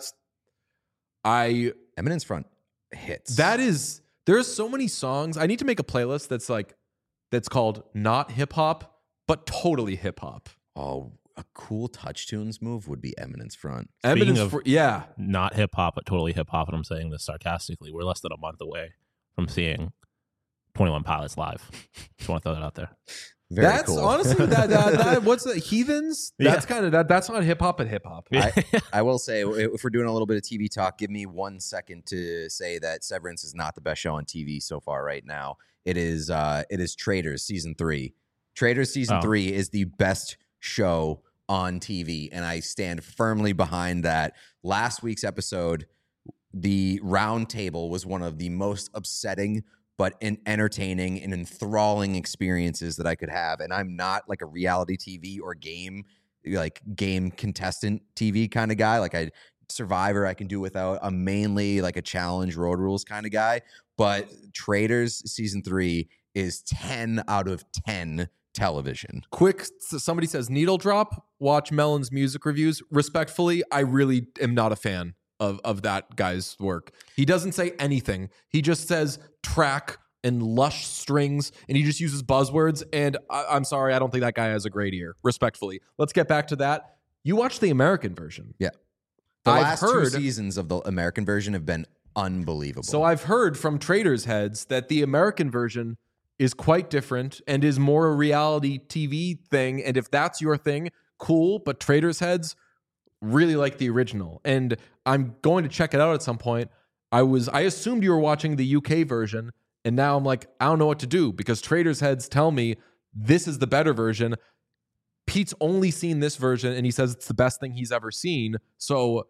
Eminence Front hits. There's so many songs. I need to make a playlist that's called not hip hop, but totally hip hop. Oh, a cool Touch Tunes move would be Eminence Front. Yeah. Not hip hop, but totally hip hop. And I'm saying this sarcastically. We're less than a month away from seeing 21 Pilots live. Just want to throw that out there. That's cool. Honestly that what's the Heathens? That's kind of that's not hip hop, but hip hop. I will say, if we're doing a little bit of TV talk, give me 1 second to say that Severance is not the best show on TV so far right now. It is Traitors season 3. Traitors season 3 is the best show on TV, and I stand firmly behind that. Last week's episode, the round table was one of the most upsetting but entertaining and enthralling experiences that I could have. And I'm not like a reality TV or game contestant TV kind of guy. Like Survivor I can do without. I'm mainly like a challenge, road rules kind of guy. But Traitors season 3 is 10 out of 10 television. Quick, somebody says needle drop. Watch Melon's music reviews. Respectfully, I really am not a fan of that guy's work. He doesn't say anything. He just says track and lush strings, and he just uses buzzwords. And I'm sorry, I don't think that guy has a great ear. Respectfully, let's get back to that. You watch the American version. Yeah, the last 2 seasons of the American version have been unbelievable. So I've heard from Traitors heads that the American version is quite different and is more a reality TV thing. And if that's your thing, cool. But Traitors heads really like the original, and I'm going to check it out at some point. I assumed you were watching the UK version, and now I'm like, I don't know what to do, because Traitors heads tell me this is the better version. Pete's only seen this version, and he says it's the best thing he's ever seen. So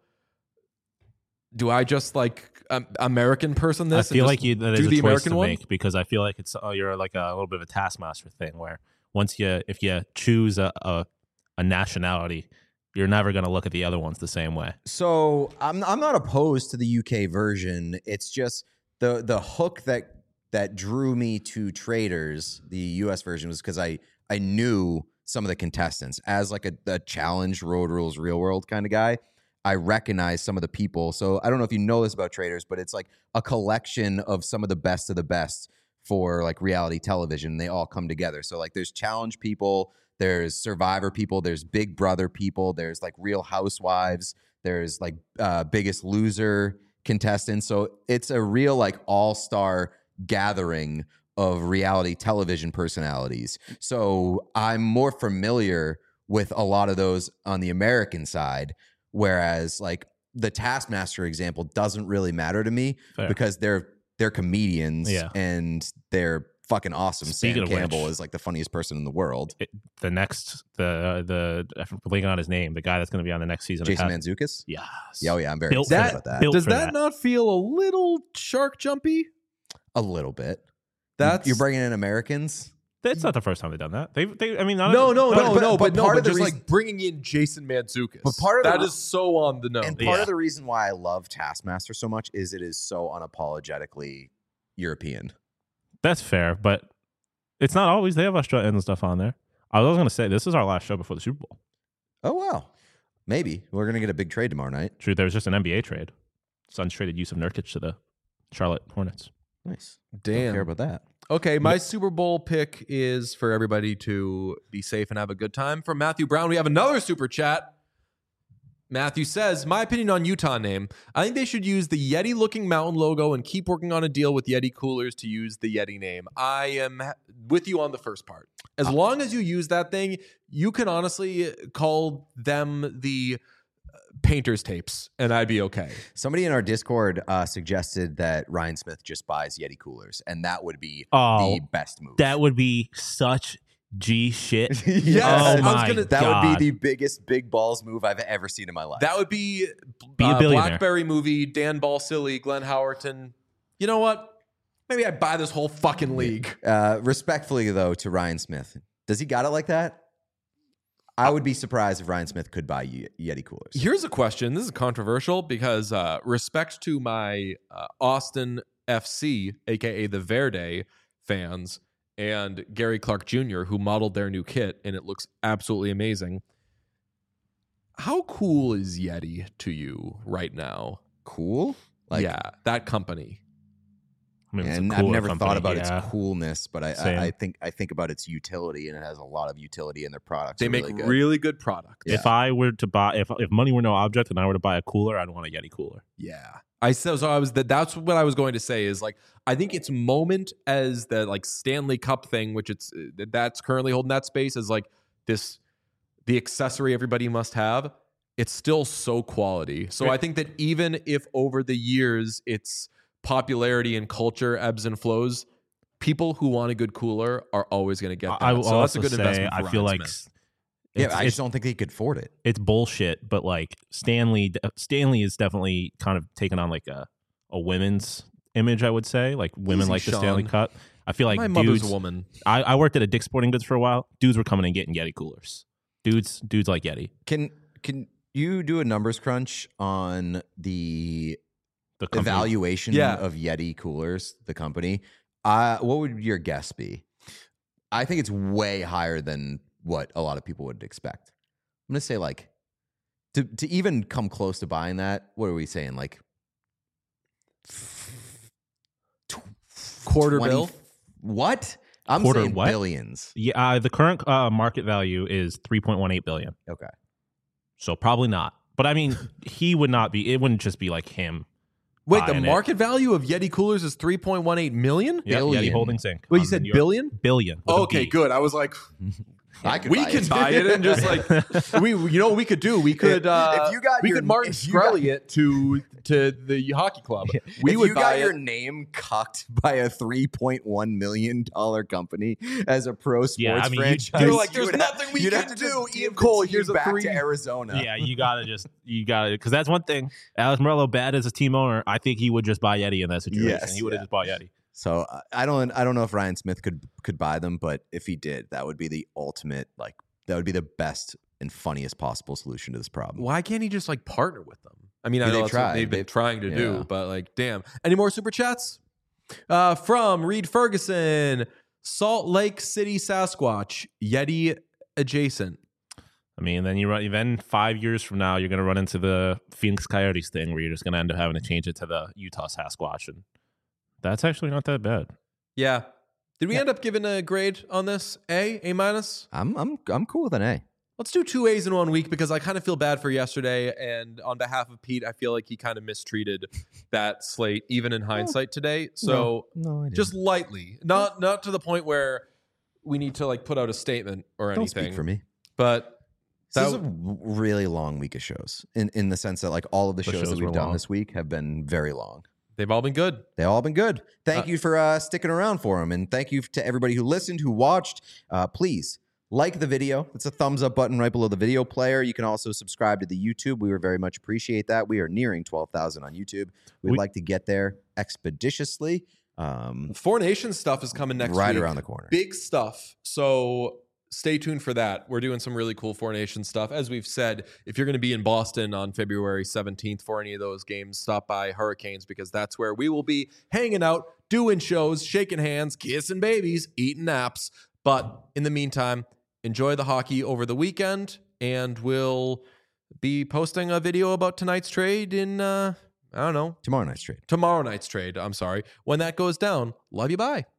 do I just American person this? I feel like that is a choice to one? make, because I feel like you're like a little bit of a taskmaster thing, where if you choose a nationality, you're never going to look at the other ones the same way. So I'm not opposed to the UK version. It's just the hook that drew me to Traitors, the US version, was because I knew some of the contestants as like a challenge, road rules, real world kind of guy. I recognize some of the people. So I don't know if you know this about Traitors, but it's like a collection of some of the best for like reality television. They all come together. So like there's challenge people, there's Survivor people, there's Big Brother people, there's like Real Housewives, there's like Biggest Loser contestants. So it's a real like all-star gathering of reality television personalities. So I'm more familiar with a lot of those on the American side, whereas like the Taskmaster example doesn't really matter to me. Fair. Because they're comedians and they're fucking awesome. Speaking Sam of Campbell which, is like the funniest person in the world. The I'm blanking on his name, the guy that's going to be on the next season. Jason Mantzoukas? Yes. Yeah, oh yeah, I'm very excited about that. Does that not feel a little shark jumpy? A little bit. You're bringing in Americans? That's not the first time they've done that. But part of the reason, bringing in Jason Mantzoukas. But part of that is so on the nose. And part of the reason why I love Taskmaster so much is it is so unapologetically European. That's fair, but it's not always. They have Australian stuff on there. I was going to say, this is our last show before the Super Bowl. Oh, wow. Maybe. We're going to get a big trade tomorrow night. True, there was just an NBA trade. Suns traded Yusuf Nurkic to the Charlotte Hornets. Nice. Damn. Don't care about that. Okay, my Super Bowl pick is for everybody to be safe and have a good time. From Matthew Brown, we have another super chat. Matthew says, my opinion on Utah name. I think they should use the Yeti-looking mountain logo and keep working on a deal with Yeti Coolers to use the Yeti name. I am with you on the first part. As long as you use that thing, you can honestly call them the painter's tapes, and I'd be okay. Somebody in our Discord suggested that Ryan Smith just buys Yeti Coolers, and that would be the best move. That would be such G shit. Yes. Oh my God. That would be the biggest big balls move I've ever seen in my life. That would be a billionaire. Blackberry movie, Dan Balsillie, Glenn Howerton. You know what? Maybe I buy this whole fucking league. Respectfully, though, to Ryan Smith, does he got it like that? I would be surprised if Ryan Smith could buy Yeti Coolers. Here's a question. This is controversial because respect to my Austin FC, a.k.a. the Verde fans, and Gary Clark Jr., who modeled their new kit, and it looks absolutely amazing. How cool is Yeti to you right now? Cool? Yeah, that company. I mean, and I've never thought about yeah. its coolness, but I think about its utility, and it has a lot of utility in their products. They make really good products. Yeah. If I were to buy, if money were no object, and I were to buy a cooler, I'd want a Yeti cooler. Yeah, that's what I was going to say. Is like I think its moment as the like Stanley Cup thing, which that's currently holding that space, is like the accessory everybody must have. It's still so quality. So I think that even if over the years its popularity and culture ebbs and flows, people who want a good cooler are always going to get that. I will so also that's a good say, investment for I feel Ryan like Smith. I just don't think they could afford it. It's bullshit, but like Stanley is definitely kind of taken on like a women's image, I would say. Like women Easy, like the Sean. Stanley Cup. I feel like My dudes, mother's a woman. I worked at a Dick's Sporting Goods for a while. Dudes were coming and getting Yeti coolers. Dudes like Yeti. Can you do a numbers crunch on the company. evaluation of Yeti Coolers, the company? What would your guess be? I think it's way higher than what a lot of people would expect. I'm going to say like to even come close to buying that, what are we saying? Like Quarter 20, bill? What? I'm Quarter saying what? billions. Yeah, the current market value is $3.18 billion. Okay. So probably not. But I mean, he would not be. It wouldn't just be like him. Wait, the buying market value of Yeti coolers is $3.18 million? Yeah, Billion. Yeti Holdings Inc. Wait, you on said New York. billion? Billion. with a Okay, B. good. I was like, We can buy it and just like you know what we could do? We could If you got we your- could Martin if you got- Shkreli it to the hockey club. We if would you buy got it. your name cucked by a $3.1 million company as a pro sports Yeah, I mean, franchise, You're like, you there's would nothing we you'd can have to do. just Ian give the Cole, team here's a back 3. to Arizona. Yeah, you gotta because that's one thing. Alex Morello, bad as a team owner, I think he would just buy Yeti in that situation. Yes, He would have just bought Yeti. So I don't know if Ryan Smith could buy them, but if he did, that would be the ultimate, like that would be the best and funniest possible solution to this problem. Why can't he just like partner with them? I mean, I They've know that's what tried. they've been trying to Yeah. do, but like, damn. Any more super chats? From Reed Ferguson, Salt Lake City, Sasquatch, Yeti adjacent. I mean, then 5 years from now, you're gonna run into the Phoenix Coyotes thing where you're just gonna end up having to change it to the Utah Sasquatch, and that's actually not that bad. Yeah. Did we end up giving a grade on this? A minus? I'm cool with an A. Let's do 2 A's in 1 week because I kind of feel bad for yesterday. And on behalf of Pete, I feel like he kind of mistreated that slate, even in hindsight today. So No, I didn't. just lightly, not to the point where we need to like put out a statement or Don't anything. speak for me. But This is a really long week of shows in the sense that like all of the shows that shows we've were done long. this week have been very long. they've all been good. They've all been good. Thank you for sticking around for them. And thank you to everybody who listened, who watched. Please like the video. It's a thumbs up button right below the video player. You can also subscribe to the YouTube. We would very much appreciate that. We are nearing 12,000 on YouTube. We'd like to get there expeditiously. Four Nations stuff is coming next Right week. around the corner. Big stuff. So stay tuned for that. We're doing some really cool Four Nations stuff. As we've said, if you're going to be in Boston on February 17th for any of those games, stop by Hurricanes because that's where we will be hanging out, doing shows, shaking hands, kissing babies, eating naps. But in the meantime, enjoy the hockey over the weekend, and we'll be posting a video about tonight's trade in, I don't know, Tomorrow night's trade. tomorrow night's trade. I'm sorry. When that goes down, love you. Bye.